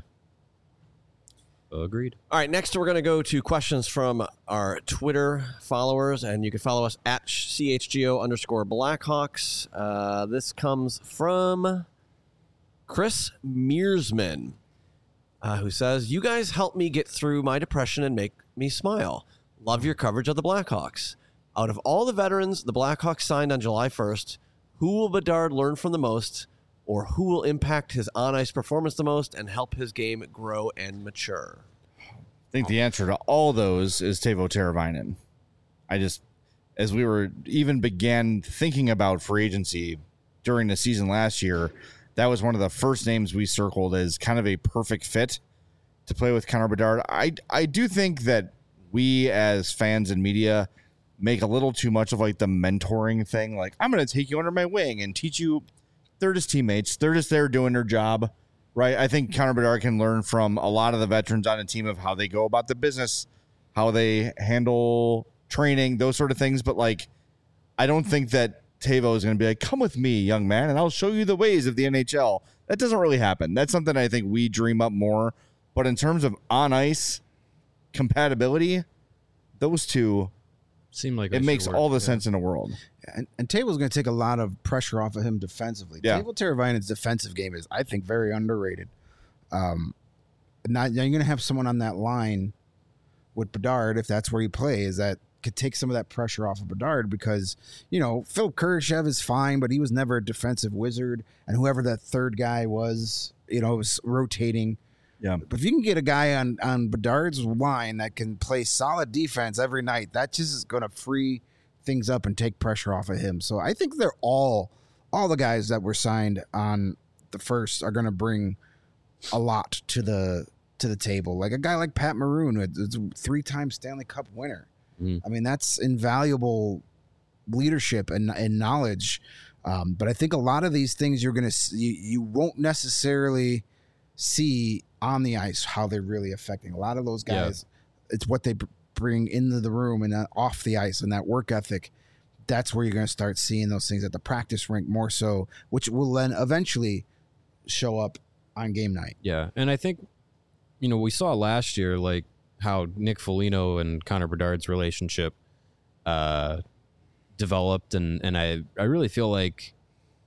Agreed. All right, next we're going to go to questions from our Twitter followers, and you can follow us at C H G O underscore Blackhawks. Uh, this comes from Chris Mearsman, uh, who says, "You guys help me get through my depression and make me smile. Love your coverage of the Blackhawks. Out of all the veterans the Blackhawks signed on July first, who will Bedard learn from the most, or who will impact his on-ice performance the most and help his game grow and mature?" I think the answer to all those is Teuvo Teravainen. I just, as we were even began thinking about free agency during the season last year, that was one of the first names we circled as kind of a perfect fit to play with Connor Bedard. I I do think that we as fans and media make a little too much of like the mentoring thing. Like, I'm going to take you under my wing and teach you. They're just teammates. They're just there doing their job. Right, I think Connor Bedard can learn from a lot of the veterans on a team of how they go about the business, how they handle training, those sort of things. But like, I don't think that Teuvo is going to be like, "Come with me, young man, and I'll show you the ways of the N H L." That doesn't really happen. That's something I think we dream up more. But in terms of on ice compatibility, those two, Seemed like it should makes work, all the yeah. sense in the world. And, and Table's going to take a lot of pressure off of him defensively. Yeah. Table Teravainen's defensive game is, I think, very underrated. Um, not, now you're going to have someone on that line with Bedard, if that's where he plays, that could take some of that pressure off of Bedard, because, you know, Phil Kurashev is fine, but he was never a defensive wizard. And whoever that third guy was, you know, was rotating. Yeah. But if you can get a guy on, on Bedard's line that can play solid defense every night, that just is going to free things up and take pressure off of him. So I think they're all, all the guys that were signed on the first are going to bring a lot to the to the table. Like a guy like Pat Maroon, who's a three-time Stanley Cup winner. Mm. I mean, that's invaluable leadership and, and knowledge. Um, but I think a lot of these things you're going to you, you won't necessarily see on the ice how they're really affecting a lot of those Yeah. guys. It's what they br- bring into the room and uh, off the ice, and that work ethic. That's where you're going to start seeing those things at the practice rink more so, which will then eventually show up on game night. Yeah, and I think, you know, we saw last year like how Nick Foligno and Connor Bedard's relationship uh, developed, and and I I really feel like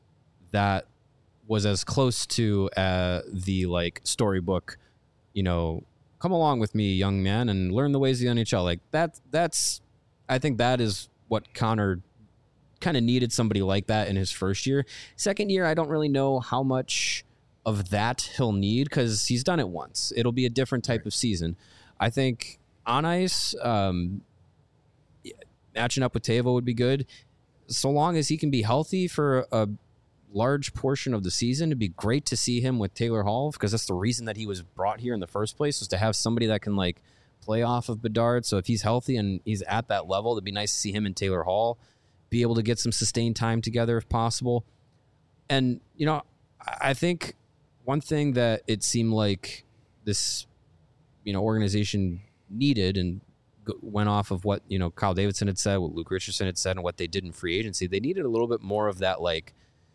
that was as close to uh, the like storybook, you know, come along with me, young man, and learn the ways of the N H L. Like that, that's, I think that is what Connor kind of needed, somebody like that in his first year. Second year, I don't really know how much of that he'll need because he's done it once. It'll be a different type of season. I think on ice, um, matching up with Teuvo would be good. So long as he can be healthy for a large portion of the season, it'd be great to see him with Taylor Hall, because that's the reason that he was brought here in the first place, was to have somebody that can like play off of Bedard. So if he's healthy and he's at that level, it'd be nice to see him and Taylor Hall be able to get some sustained time together if possible. And, you know, I think one thing that it seemed like this, you know, organization needed, and went off of what, you know, Kyle Davidson had said, what Luke Richardson had said, and what they did in free agency, they needed a little bit more of that, like,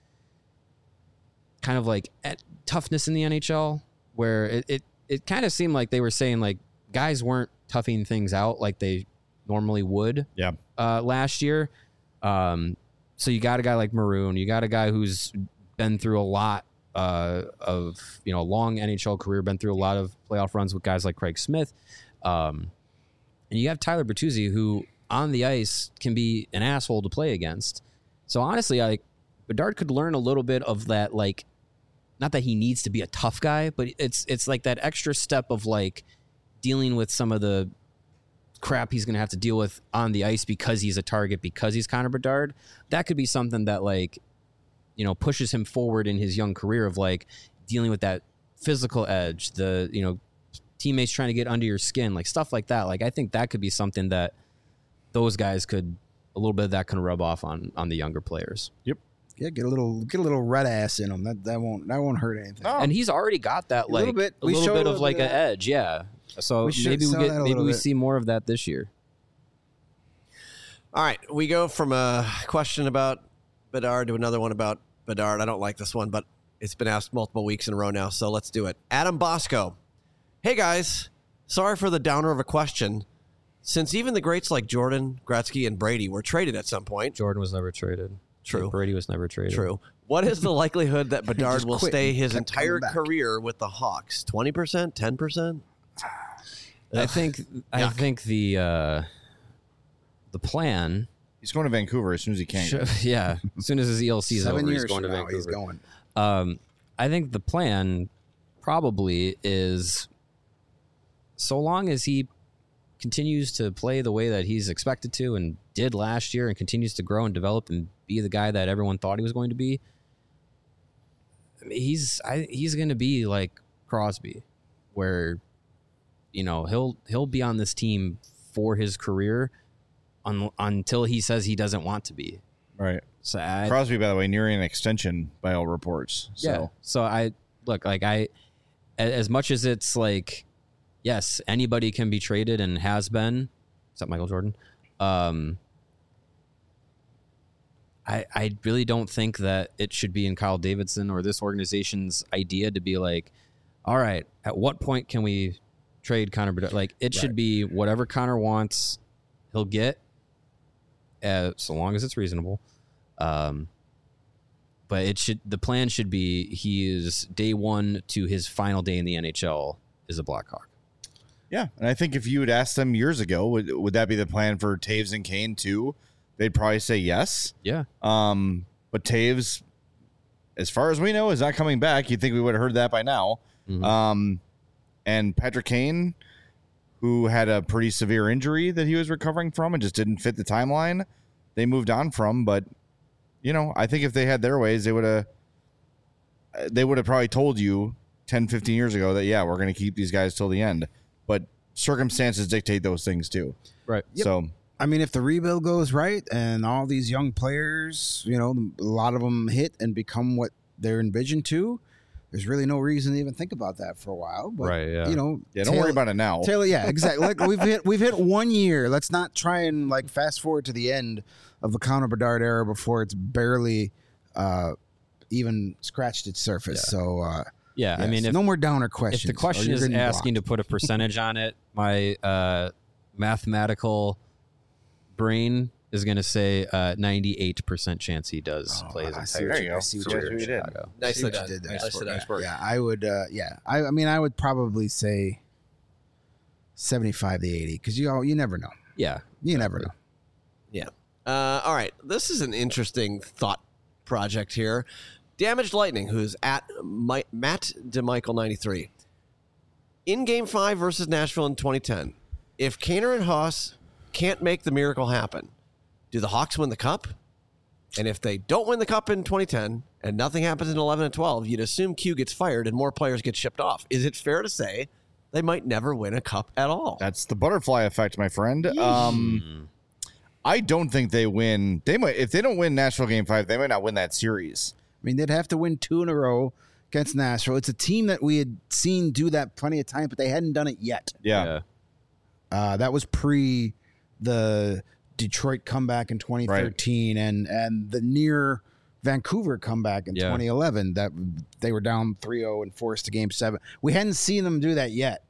kind of like toughness in the N H L, where it, it, it kind of seemed like they were saying, like, guys weren't toughing things out like they normally would yeah. uh, last year. Um, so you got a guy like Maroon, you got a guy who's been through a lot uh, of, you know, a long N H L career, been through a lot of playoff runs with guys like Craig Smith. Um, and you have Tyler Bertuzzi, who on the ice can be an asshole to play against. So honestly, like, Bedard could learn a little bit of that, like, not that he needs to be a tough guy, but it's it's like that extra step of like dealing with some of the crap he's going to have to deal with on the ice because he's a target, because he's Connor Bedard. That could be something that, like, you know, pushes him forward in his young career of like dealing with that physical edge, the, you know, teammates trying to get under your skin, like stuff like that. Like, I think that could be something that those guys could, a little bit of that can rub off on on the younger players. Yep. Yeah, get a little get a little red ass in him. That that won't that won't hurt anything. No. And he's already got that, like, a little bit, a We little showed bit a of little like bit an of that. edge, yeah. So We should maybe we saw get that a maybe little we bit. see more of that this year. All right, we go from a question about Bedard to another one about Bedard. I don't like this one, but it's been asked multiple weeks in a row now, so let's do it. Adam Bosco. Hey, guys. Sorry for the downer of a question. Since even the greats like Jordan, Gretzky, and Brady were traded at some point. Jordan was never traded. True. Brady was never traded. True. What is the likelihood that Bedard just will quit stay and his kept entire coming back. career with the Hawks? twenty percent? ten percent? I think I Yuck. think the uh, the plan, He's going to Vancouver as soon as he can. should, yeah, as soon as his E L C is Seven over, years he's going to from now, Vancouver. he's going. Um, I think the plan probably is, so long as he continues to play the way that he's expected to and did last year, and continues to grow and develop and be the guy that everyone thought he was going to be, I mean, he's I, he's going to be like Crosby, where, you know, he'll he'll be on this team for his career un, until he says he doesn't want to be. Right. So I, Crosby, by the way, nearing an extension by all reports. So. Yeah. So I look like I, a- as much as it's like, yes, anybody can be traded and has been, except Michael Jordan. Um, I I really don't think that it should be in Kyle Davidson or this organization's idea to be like, all right, at what point can we trade Connor Bedard? Like, it should Right. be whatever Connor wants, he'll get, uh, so long as it's reasonable. Um, but it should the plan should be he is day one to his final day in the N H L is a Blackhawk. Yeah, and I think if you had asked them years ago, would would that be the plan for Taves and Kane too? They'd probably say yes. Yeah. Um, but Taves, as far as we know, is not coming back. You'd think we would have heard that by now. Mhm. Um, and Patrick Kane, who had a pretty severe injury that he was recovering from and just didn't fit the timeline, they moved on from. But, you know, I think if they had their ways, they would have they would have probably told you ten, fifteen years ago that, yeah, we're going to keep these guys till the end. But circumstances dictate those things too. Right. Yep. So, I mean, if the rebuild goes right and all these young players, you know, a lot of them hit and become what they're envisioned to, there's really no reason to even think about that for a while. But, Right, yeah. you know, yeah, don't worry about it now. Taylor, yeah, exactly. Like we've hit we've hit one year. Let's not try and like fast forward to the end of the Connor Bedard era before it's barely uh, even scratched its surface. So, uh, Yeah. I yes, mean, if, no more downer if questions. the question or is you're getting asking blocked. to put a percentage on it, my uh, mathematical brain is going to say uh, ninety-eight percent chance he does Oh, play his I see entire what There you career go. I see what So you that's did. what you did. Chicago. Nicely See what done. you did there. Nicely done. Yeah, I would. Uh, yeah, I, I mean, I would probably say seventy-five to eighty because you all, you never know. Yeah. You never know. Yeah. Uh, all right. This is an interesting thought project here. Damaged Lightning, who's at My- Matt DeMichael ninety-three. In Game five versus Nashville in twenty ten, if Kaner and Haas can't make the miracle happen, do the Hawks win the Cup? And if they don't win the Cup in twenty ten and nothing happens in eleven and twelve, you'd assume Q gets fired and more players get shipped off. Is it fair to say they might never win a Cup at all? That's the butterfly effect, my friend. Um, I don't think they win. They might if they don't win Nashville Game Five, they might not win that series. I mean, they'd have to win two in a row against Nashville. It's a team that we had seen do that plenty of times, but they hadn't done it yet. Yeah, Yeah. Uh, that was pre the Detroit comeback in twenty thirteen and and the near Vancouver comeback in Yeah. twenty eleven that they were down three oh and forced to game seven. We hadn't seen them do that yet.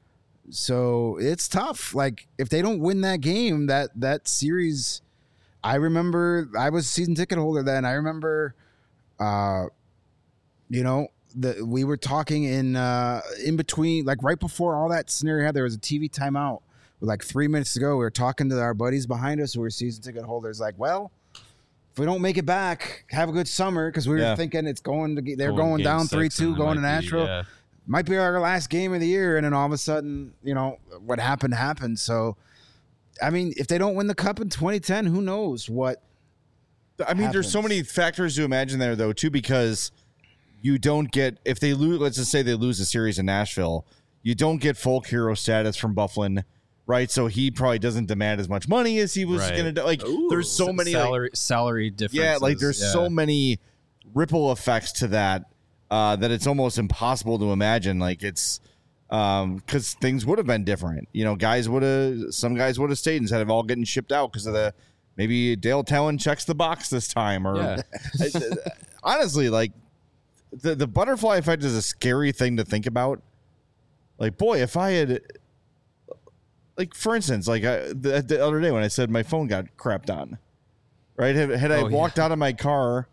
So it's tough. Like if they don't win that game, that that series, I remember I was a season ticket holder then. I remember, uh, you know, the we were talking in uh, in between, like right before all that scenario had, there was a T V timeout. Like three minutes ago, we were talking to our buddies behind us who were season ticket holders. Like, well, if we don't make it back, have a good summer because we were Yeah. thinking it's going to get. They're Going going, game down three six, two, and it going to might be- Nashville. yeah. Might be our last game of the year, and then all of a sudden, you know, what happened happened. So, I mean, if they don't win the Cup in twenty ten, who knows what? I mean, there's so happens. many factors to imagine there, though, too, because you don't get if they lose. Let's just say they lose a series in Nashville, you don't get folk hero status from Bufflin, right? So he probably doesn't demand as much money as he was Right. going to do. Like, there's so many like, salary salary differences. yeah, like there's yeah. so many ripple effects to that uh, that it's almost impossible to imagine. Like it's um because things would have been different. You know, guys would have some guys would have stayed instead of all getting shipped out because of the maybe Dale Talon checks the box this time or Yeah. honestly, like the the butterfly effect is a scary thing to think about. Like, boy, if I had. Like, for instance, like I, the, the other day when I said my phone got crapped on, right? Had, had I Oh, yeah. walked out of my car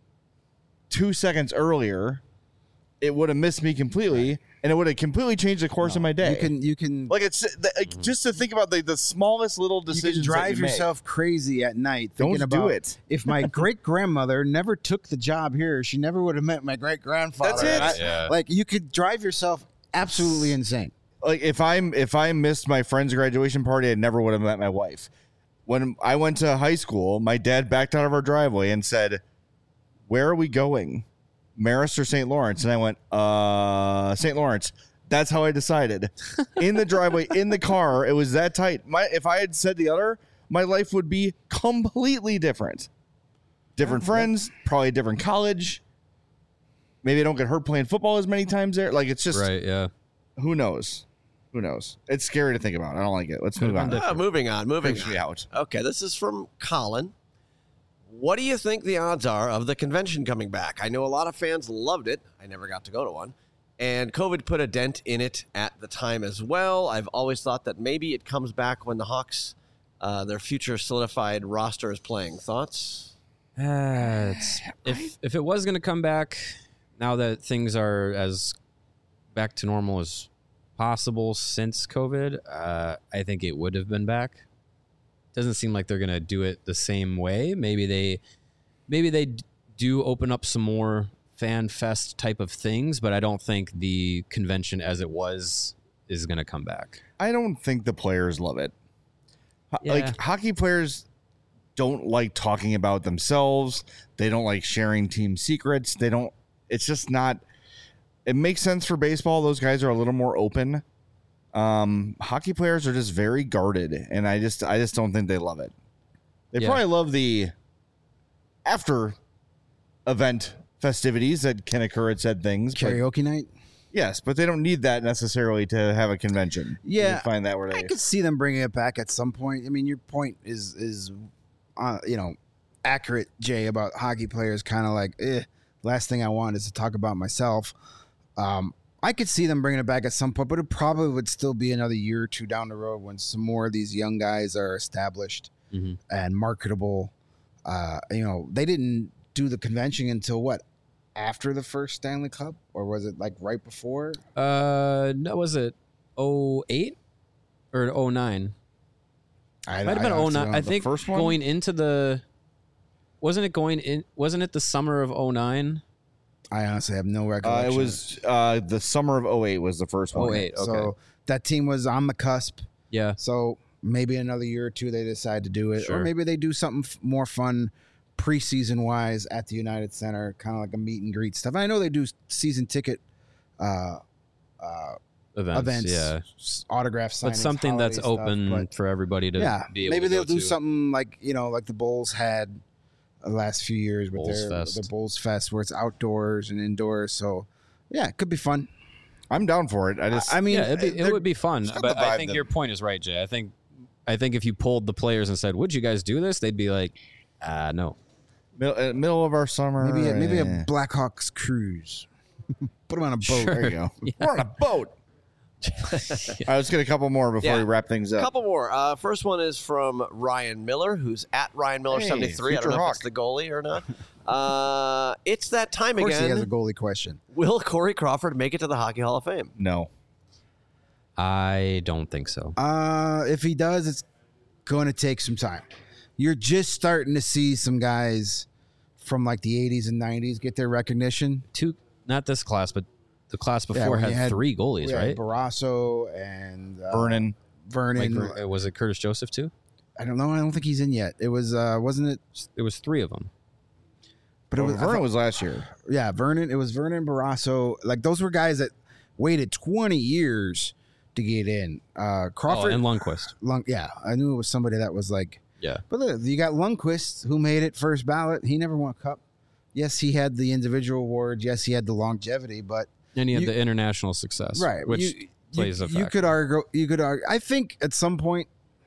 two seconds earlier, it would have missed me completely, and it would have completely changed the course of my day. You can you can like it's like, just to think about the, the smallest little you decisions. can that drive you make. yourself crazy at night Don't thinking do about it. if my great grandmother never took the job here, she never would have met my great grandfather. That's it. Yeah. Like you could drive yourself absolutely insane. Like if I'm if I missed my friend's graduation party, I never would have met my wife. When I went to high school, my dad backed out of our driveway and said, "Where are we going? Marist or Saint Lawrence?" And I went, "Uh, Saint Lawrence." That's how I decided. In the driveway, in the car, it was that tight. My if I had said the other, my life would be completely different. Different friends, probably a different college. Maybe I don't get hurt playing football as many times there. Like it's just Right. Yeah. who knows? Who knows? It's scary to think about. I don't like it. Let's move on. Ah, moving on, moving Freaks on. me out. Okay, this is from Colin. What do you think the odds are of the convention coming back? I know a lot of fans loved it. I never got to go to one. And COVID put a dent in it at the time as well. I've always thought that maybe it comes back when the Hawks, uh, their future solidified roster is playing. Thoughts? Uh, it's, if if it was going to come back, now that things are as back to normal as possible since COVID, uh, I think it would have been back. Doesn't seem like they're going to do it the same way. Maybe they, maybe they d- do open up some more fan fest type of things, but I don't think the convention as it was is going to come back. I don't think the players love it. Ho- Yeah. Like hockey players don't like talking about themselves. They don't like sharing team secrets. They don't. It's just not. It makes sense for baseball. Those guys are a little more open. Um, hockey players are just very guarded, and I just, I just don't think they love it. They Yeah. probably love the after event festivities that can occur at said things. But Karaoke night. yes, but they don't need that necessarily to have a convention. Yeah, you find that where I they. could see them bringing it back at some point. I mean, your point is is, uh, you know, accurate, Jay, about hockey players. Kind of like, eh, last thing I want is to talk about myself. Um, I could see them bringing it back at some point, but it probably would still be another year or two down the road when some more of these young guys are established Mm-hmm. and marketable. Uh, you know, they didn't do the convention until what? After the first Stanley Cup, or was it like right before? Uh, no, was it oh eight or oh nine? I, Might have been I oh honestly nine. don't I know. think first one? going into the wasn't it going in? Wasn't it the summer of oh nine? I honestly have no Uh, recollection. it was uh, the summer of oh eight was the first one. oh eight. Okay. So that team was on the cusp. Yeah. So maybe another year or two they decide to do it, Sure. or maybe they do something f- more fun preseason wise at the United Center, kind of like a meet and greet stuff. I know they do season ticket uh, uh, Events, events, yeah. s- autograph signings, But something that's holiday stuff, open but- for everybody to yeah, be able maybe to they'll go do to. something like you know, like the Bulls had the last few years with Bulls their Fest. the Bulls Fest, where it's outdoors and indoors. So, yeah, it could be fun. I'm down for it. I just I mean, yeah, it'd be, they're- it would be fun. got But the I vibe think that- your point is right, Jay. I think I think if you polled the players and said, "Would you guys do this?" They'd be like, "Ah, no." middle, uh, middle of our summer. maybe a, maybe eh. a Blackhawks cruise. Put them on a boat. There you go. We're on a boat. All right, let's get a couple more before Yeah. we wrap things A up. couple more. Uh, first one is from Ryan Miller, who's at Ryan Miller Hey, seventy-three. I don't future know Hawk. if it's the goalie or not. Uh, it's that time Of course, he has a again. goalie question. Will Corey Crawford make it to the Hockey Hall of Fame? No. I don't think so. Uh, if he does, it's going to take some time. You're just starting to see some guys from like the eighties and nineties get their recognition. Two, not this class, but the class before when had, you had- three goalies, We had right? Barrasso and uh, Vernon. Vernon. Like, uh, was it Curtis Joseph too? I don't know. I don't think he's in yet. It was, uh, wasn't it? It was three of them. But it Well, was, I Vernon thought- was last year. yeah, Vernon. It was Vernon Barrasso. Like those were guys that waited twenty years to get in. Uh, Oh, Crawford. and Lundqvist. Lung, yeah, I knew it was somebody that was like. Yeah. But look, you got Lundqvist, who made it first ballot. He never won a cup. Yes, he had the individual awards. Yes, he had the longevity. But And he had You- the international success, right, which you, plays you, a you factor. could argue. You could argue. I think at some point,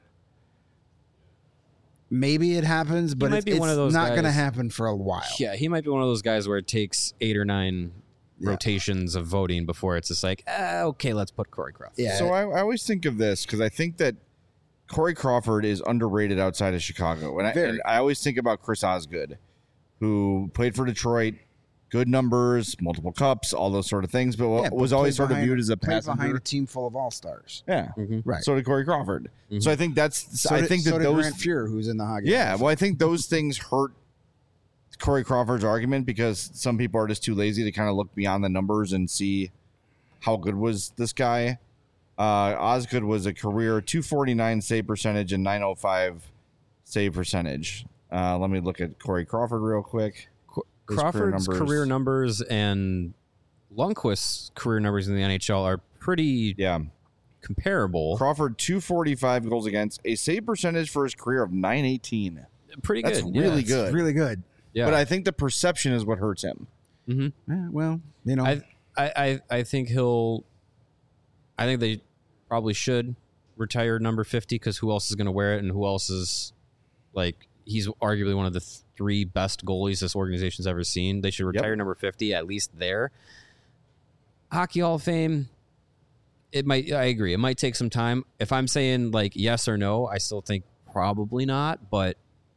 maybe it happens, but might it's, be one it's of those not going to guys- happen for a while. Yeah, he might be one of those guys where it takes eight or nine Yeah. rotations of voting before it's just like, ah, okay, let's put Corey Crawford. Yeah. So I, I always think of this because I think that Corey Crawford is underrated outside of Chicago. And I, Very. and I always think about Chris Osgood, who played for Detroit, good numbers, multiple cups, all those sort of things, but Yeah, was but always played sort of behind- viewed as a played behind passenger. a team full of all stars. Yeah. Mhm. Right. So did Corey Crawford. Mhm. So I think that's, So I did- think so that did those, Grant Fuhr, who's in the hockey. yeah, well, I think those things hurt Corey Crawford's argument because some people are just too lazy to kind of look beyond the numbers and see how good was this guy. Uh, Osgood was a career two forty-nine save percentage and nine oh five save percentage. Uh, let me look at Corey Crawford real quick. Qu- His career Crawford's numbers. career numbers and Lundqvist's career numbers in the N H L are pretty Yeah, comparable. Crawford two forty-five goals against, a save percentage for his career of nine eighteen. pretty That's good. really yeah. It's good. really good. Yeah. But I think the perception is what hurts him. hmm Yeah, well, you know, I, I, I, I think he'll. I think they probably should retire number fifty because who else is going to wear it and who else is like he's arguably one of the th- three best goalies this organization's ever seen. They should retire Yep. number fifty at least there. Hockey Hall of Fame. It might. I agree. It might take some time. If I'm saying like yes or no, I still think probably not. But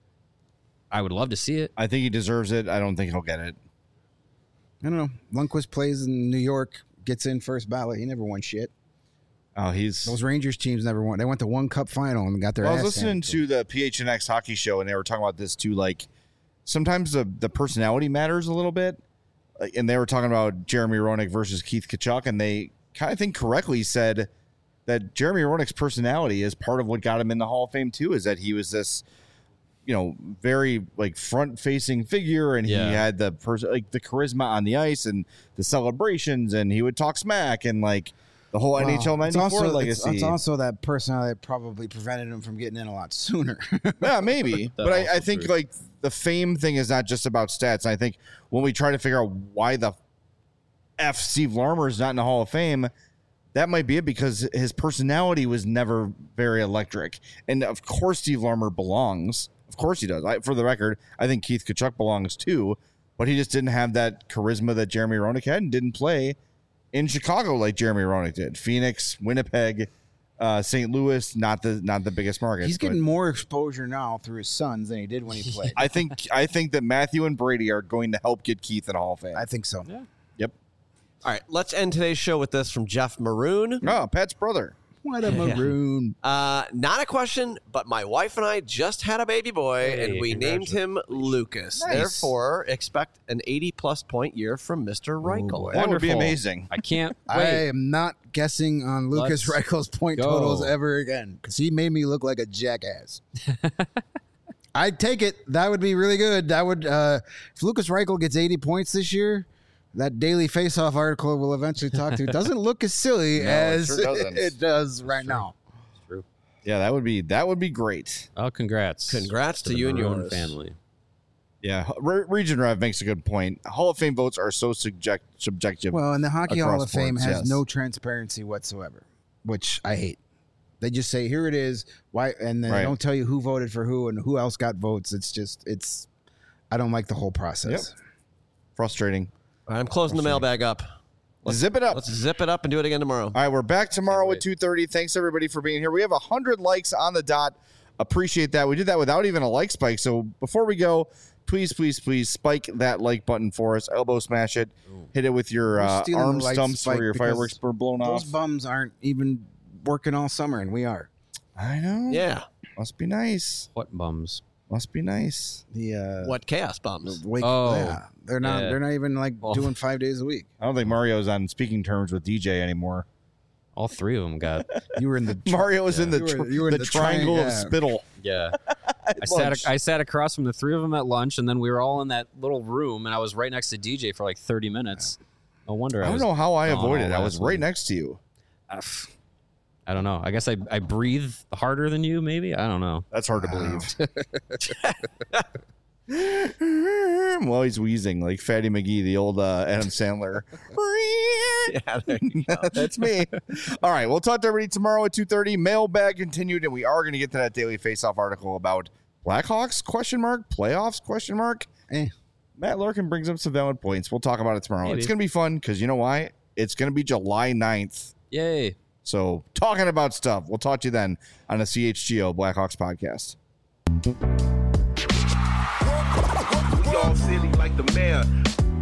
I would love to see it. I think he deserves it. I don't think he'll get it. I don't know. Lundqvist plays in New York, gets in first ballot. He never won shit. Oh, he's. Those Rangers teams never won. They went to one cup final and got their Well, I was ass listening handed to the P H N X hockey show, and they were talking about this too. Like, sometimes the the personality matters a little bit, Like, and they were talking about Jeremy Roenick versus Keith Tkachuk, and they kind of think correctly said that Jeremy Roenick's personality is part of what got him in the Hall of Fame too. Is that he was this, you know, very like front facing figure, and Yeah. he had the person like the charisma on the ice and the celebrations, and he would talk smack and like. The whole N H L Well, it's ninety-four also, it's, legacy. it's also that personality that probably prevented him from getting in a lot sooner. Yeah, maybe. but I, I also think true. like the fame thing is not just about stats. I think when we try to figure out why the F Steve Larmer is not in the Hall of Fame, that might be it because his personality was never very electric. And of course, Steve Larmer belongs. Of course he does. I, for the record, I think Keith Tkachuk belongs too, but he just didn't have that charisma that Jeremy Roenick had and didn't play in Chicago like Jeremy Roenick did. Phoenix, Winnipeg, uh, Saint Louis, not the not the biggest markets. He's but- getting more exposure now through his sons than he did when he played. I think I think that Matthew and Brady are going to help get Keith in Hall of Fame. I think so. Yep. All right, let's end today's show with this from Jeff Maroon. Oh, Pat's brother. What a maroon. Uh, not a question, but my wife and I just had a baby boy, Hey, and we named him Lucas. Nice. Therefore, expect an eighty-plus point year from Mister Reichel. boy. That would be Wonderful. amazing. I can't I wait. am not guessing on Lucas Let's Reichel's point go. totals ever again because he made me look like a jackass. I'd take it. That would be really good. That would uh, if Lucas Reichel gets eighty points this year, that Daily Faceoff article we'll eventually talk to doesn't look as silly No, it as sure doesn't. it does right now. True. Yeah, that would be that would be great. Oh, congrats. Congrats to the you and Maroon yours. family. Yeah, Re- Region Rev makes a good point. Hall of Fame votes are so subject subjective. Well, and the Hockey Hall Across of Fame sports, has yes. no transparency whatsoever, which I hate. They just say, here it is. Why? And then Right. they don't tell you who voted for who and who else got votes. It's just, it's, I don't like the whole process. Frustrating. All right, I'm closing the mailbag up. Let's, Zip it up. Let's zip it up and do it again tomorrow. All right, we're back tomorrow Can't at two thirty. Thanks, everybody, for being here. We have one hundred likes on the dot. Appreciate that. We did that without even a like spike. So before we go, please, please, please spike that like button for us. Elbow smash it. Hit it with your We're uh, stealing arm the light stumps spike where your because fireworks were blown Those off. bums aren't even working all summer, and we are. I know. Yeah. Must be nice. What bums? Must be nice. The uh, What chaos bums? wake, Oh. yeah, they're not. Yeah. They're not even like Well. doing five days a week. I don't think Mario's on speaking terms with D J anymore. All three of them got. You were in the Mario was in the, You were- tr- you were in the, the triangle tri- of yeah. spittle. Yeah. I sat, I sat across from the three of them at lunch, and then we were all in that little room, and I was right next to D J for like thirty minutes. No wonder I, I don't was, know how I gone avoided. all I was last right week. next to you. Uh, pff, I don't know. I guess I, I breathe harder than you, maybe? I don't know. That's hard Wow. to believe. Well, he's wheezing like Fatty McGee, the old uh, Adam Sandler. Yeah, there you go. That's me. All right, we'll talk to everybody tomorrow at two thirty. Mailbag continued, and we are going to get to that Daily Faceoff article about Blackhawks, question mark, playoffs, question mark. Eh. Matt Larkin brings up some valid points. We'll talk about it tomorrow. Maybe. It's going to be fun because you know why? It's going to be July ninth. Yay. So talking about stuff. We'll talk to you then on the C H G O Blackhawks podcast. We all silly like the mayor.